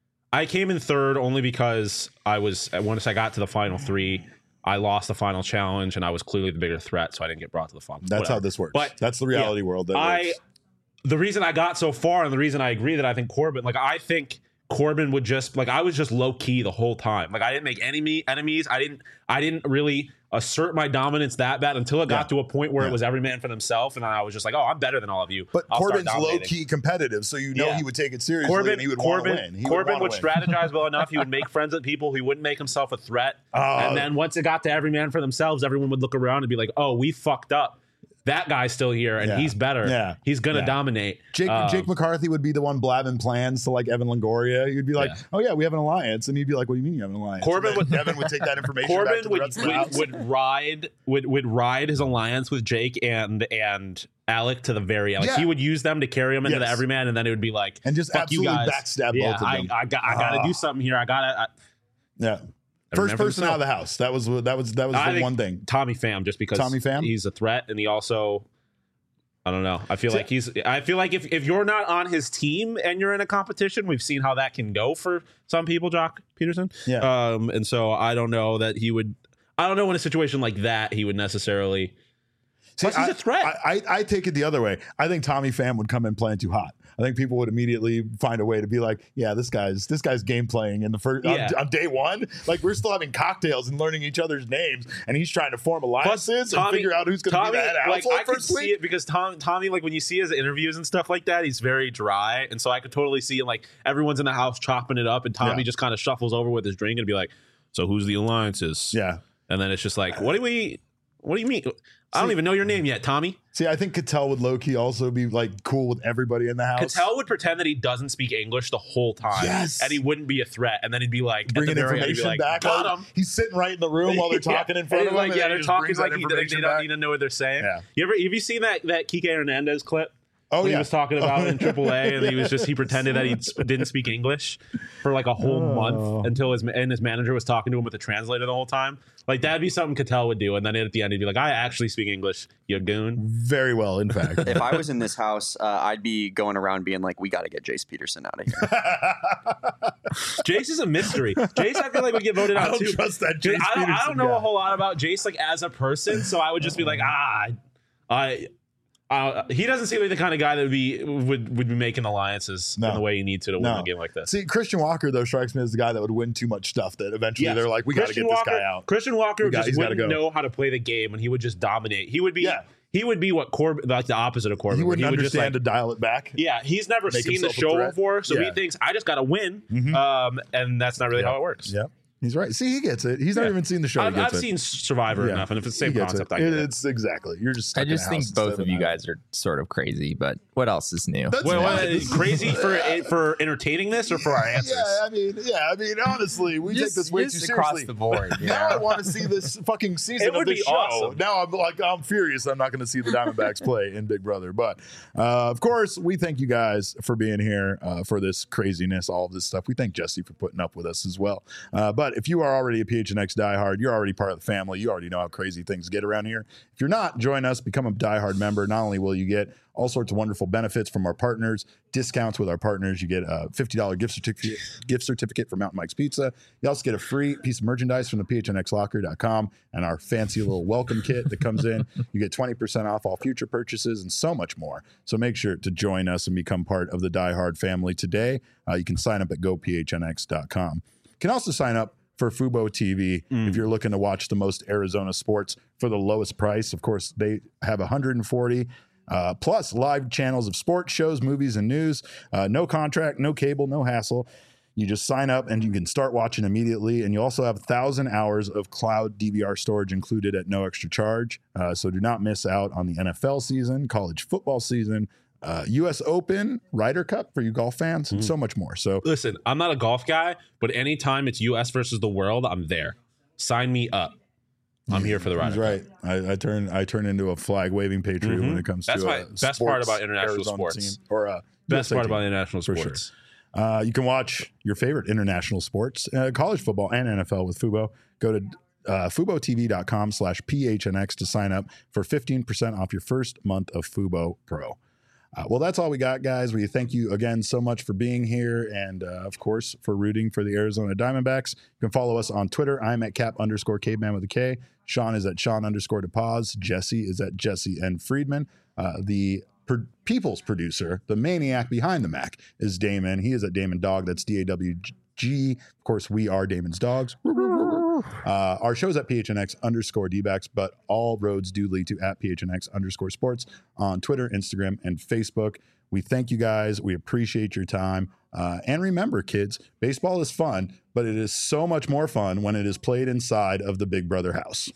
A: I came in third only because I was once I got to the final three, I lost the final challenge, and I was clearly the bigger threat, so I didn't get brought to the final.
B: That's how
A: Whatever.
B: this works.
A: But,
B: that's the reality world. That
A: I
B: works.
A: the reason I got so far, and the reason I agree that I think Corbin, like I think Corbin would just like I was just low key the whole time. Like I didn't make enemy enemies. I didn't I didn't really assert my dominance that bad until it got
B: Yeah.
A: to a point where
B: Yeah.
A: it was every man for themselves, and I was just like, oh, I'm better than all of you.
B: But
A: I'll start
B: Corbin's low
A: dominating.
B: key competitive, so you know
A: Yeah.
B: he would take it seriously
A: Corbin,
B: and he would
A: Corbin,
B: want to win. He
A: Corbin would,
B: would, wanna win.
A: strategize well enough. He would make friends with people. He wouldn't make himself a threat.
B: Oh.
A: and then once it got to every man for themselves, everyone would look around and be like, oh, we fucked up. That guy's still here, and
B: Yeah.
A: he's better.
B: Yeah.
A: He's gonna
B: Yeah.
A: dominate.
B: Jake,
A: Um,
B: Jake McCarthy would be the one blabbing plans to like Evan Longoria. You'd be like,
A: Yeah.
B: "Oh yeah, we have an alliance," and he'd be like, "What do you mean you have an alliance?"
A: Corbin
B: And then
A: would-
B: Evan would take that information back
A: Corbin
B: to the
A: would,
B: rest of the
A: would,
B: house.
A: would ride would would ride his alliance with Jake and and Alec to the very end. Like
B: Yeah.
A: he would use them to carry him into
B: Yes.
A: the everyman, and then it would be like,
B: and just
A: fuck you
B: absolutely
A: guys.
B: backstab
A: yeah,
B: both of
A: I,
B: them.
A: I got I got to
B: Ah.
A: do something here. I got to.
B: yeah, first person out of the house. That was that was that was
A: I
B: the
A: think
B: one thing.
A: Tommy Pham, just because
B: Tommy Pham?
A: he's a threat, and he also. I don't know. I feel
B: See-
A: like he's. I feel like if, if you're not on his team and you're in a competition, we've seen how that can go for some people. Jock Peterson.
B: Yeah.
A: Um. And so I don't know that he would. I don't know in a situation like that he would necessarily. Plus, he's
B: I-
A: a threat.
B: I, I, I take it the other way. I think Tommy Pham would come in playing too hot. I think people would immediately find a way to be like, yeah, this guy's this guy's game playing in the first
A: Yeah.
B: on, on day one. Like we're still having cocktails and learning each other's names, and he's trying to form
A: Plus,
B: alliances and figure out who's going to be the head
A: like,
B: household
A: I could
B: first
A: see
B: week.
A: it because Tom, Tommy, like when you see his interviews and stuff like that, he's very dry, and so I could totally see like everyone's in the house chopping it up, and Tommy
B: Yeah.
A: just kind of shuffles over with his drink and be like, "So who's the alliances?"
B: Yeah.
A: and then it's just like, "What do we? What do you mean? I don't
B: See-
A: even know your name yet, Tommy."
B: See, I think Cattell would low key also be like cool with everybody in the house.
A: Cattell would pretend that he doesn't speak English the whole time,
B: Yes.
A: and he wouldn't be a threat, and then he'd be like,
B: bringing
A: at the very end, he'd
B: information
A: be like,
B: back.
A: "Got
B: Like,
A: him."
B: he's sitting right in the room while they're talking
A: Yeah.
B: in front
A: And
B: of
A: he's
B: him.
A: like,
B: and
A: yeah,
B: then he
A: they're
B: just
A: talking
B: brings
A: like
B: that
A: he, they, they
B: information
A: don't
B: back.
A: need to know what they're saying.
B: Yeah.
A: You ever have you seen that that Kike Hernandez clip?
B: Oh
A: When
B: yeah,
A: he was talking about in triple A, and he was just he pretended that he sp- didn't speak English for like a whole
B: Oh.
A: month until his and his manager was talking to him with a translator the whole time. Like that'd be something Cattell would do, and then at the end he'd be like, "I actually speak English, you goon."
B: very well. In fact,
D: If I was in this house, uh, I'd be going around being like, "We got to get Jace Peterson out of here."
A: Jace is a mystery. Jace, I feel like would get voted
B: I
A: out
B: don't
A: too.
B: trust that.
A: Dude,
B: Jace
A: I don't, I
B: Peterson
A: don't know
B: guy.
A: a whole lot about Jace like as a person, so I would just be like, ah, I. Uh, he doesn't seem like the kind of guy that would be would, would be making alliances
B: No.
A: in the way you need to to win
B: No.
A: a game like this.
B: See, Christian Walker though strikes me as the guy that would win too much stuff. That eventually
A: Yes.
B: they're like, we got to
A: Christian
B: get
A: Walker,
B: this guy out.
A: Christian Walker
B: We got-
A: just
B: he's gotta
A: wouldn't
B: go.
A: know how to play the game, and he would just dominate. He would be,
B: Yeah.
A: he would be what Corbin, like the opposite of Corbin.
B: He
A: where
B: wouldn't
A: would just
B: understand
A: like,
B: to dial it back.
A: yeah, he's never
B: Make
A: seen the
B: himself a
A: show
B: threat.
A: before, so he
B: Yeah.
A: thinks I just got to win,
B: Mhm.
A: um, and that's not really
B: Yeah.
A: how it works.
B: Yep. He's right. See, he gets it. He's not
A: Yeah.
B: even seen the show.
A: I've,
B: he gets
A: I've
B: it.
A: seen Survivor
B: Yeah.
A: enough, and if it's the
B: He
A: same
B: gets
A: concept,
B: it.
A: I get it.
B: It's exactly. You're just.
C: I
B: stuck in a
C: just think
B: house
C: both
B: instead
C: of you
B: an
C: guys are sort of crazy, but what else is new?
B: That's
A: Wait,
B: fine.
A: what, is crazy for for entertaining this or for our answers?
B: Yeah, I mean, yeah, I mean, honestly, we
C: Just-
B: take this way too
C: just
B: seriously.
C: across the board. You
B: Now I
C: know?
B: want to see this fucking season
A: It
B: of
A: would
B: this
A: be
B: show.
A: awesome.
B: Now I'm like, I'm furious. I'm not going to see the Diamondbacks play in Big Brother. But uh, of course, we thank you guys for being here uh, for this craziness, all of this stuff. We thank Jesse for putting up with us as well. Uh, but if you are already a P H N X diehard, you're already part of the family. You already know how crazy things get around here. If you're not, join us, become a diehard member. Not only will you get all sorts of wonderful benefits from our partners, discounts with our partners. You get a fifty dollars gift certificate, gift certificate for Mountain Mike's Pizza. You also get a free piece of merchandise from the P H N X locker dot com and our fancy little welcome kit that comes in. You get twenty percent off all future purchases and so much more. So make sure to join us and become part of the Die Hard family today. Uh, you can sign up at go P H N X dot com. You can also sign up for Fubo T V if you're looking to watch the most Arizona sports for the lowest price. Of course, they have one hundred forty uh, plus live channels of sports, shows, movies, and news. Uh, no contract, no cable, no hassle. You just sign up and you can start watching immediately. And you also have one thousand hours of cloud D V R storage included at no extra charge. Uh, so do not miss out on the N F L season, college football season, uh, U S Open, Ryder Cup for you golf fans, and so much more. So
A: Listen, I'm not a golf guy, but anytime it's U S versus the world, I'm there. Sign me up. I'm here for the ride.
B: he's right. I, I turn I turn into a flag waving patriot when it comes
A: That's
B: to
A: my
B: a
A: best part
B: sports
A: about international
B: Arizona
A: sports.
B: team, or a
A: Best
B: U S A
A: part
B: team.
A: about international
B: For sure.
A: sports.
B: Uh, you can watch your favorite international sports, uh, college football and N F L with Fubo. Go to uh, fubo T V dot com slash P H N X to sign up for fifteen percent off your first month of Fubo Pro. Uh, well, that's all we got, guys. We thank you again so much for being here and, uh, of course, for rooting for the Arizona Diamondbacks. You can follow us on Twitter. I'm at cap underscore caveman with a K. Sean is at Sean underscore DePaz. Jesse is at Jesse N. Friedman. Uh, the per- people's producer, the maniac behind the Mac, is Damon. He is at Damon Dog. That's D A W G. Of course, we are Damon's Dogs. Uh, our show's at P H N X underscore D-backs, but all roads do lead to at P H N X underscore sports on Twitter, Instagram, and Facebook. We thank you guys. We appreciate your time. Uh, and remember, kids, baseball is fun, but it is so much more fun when it is played inside of the Big Brother house.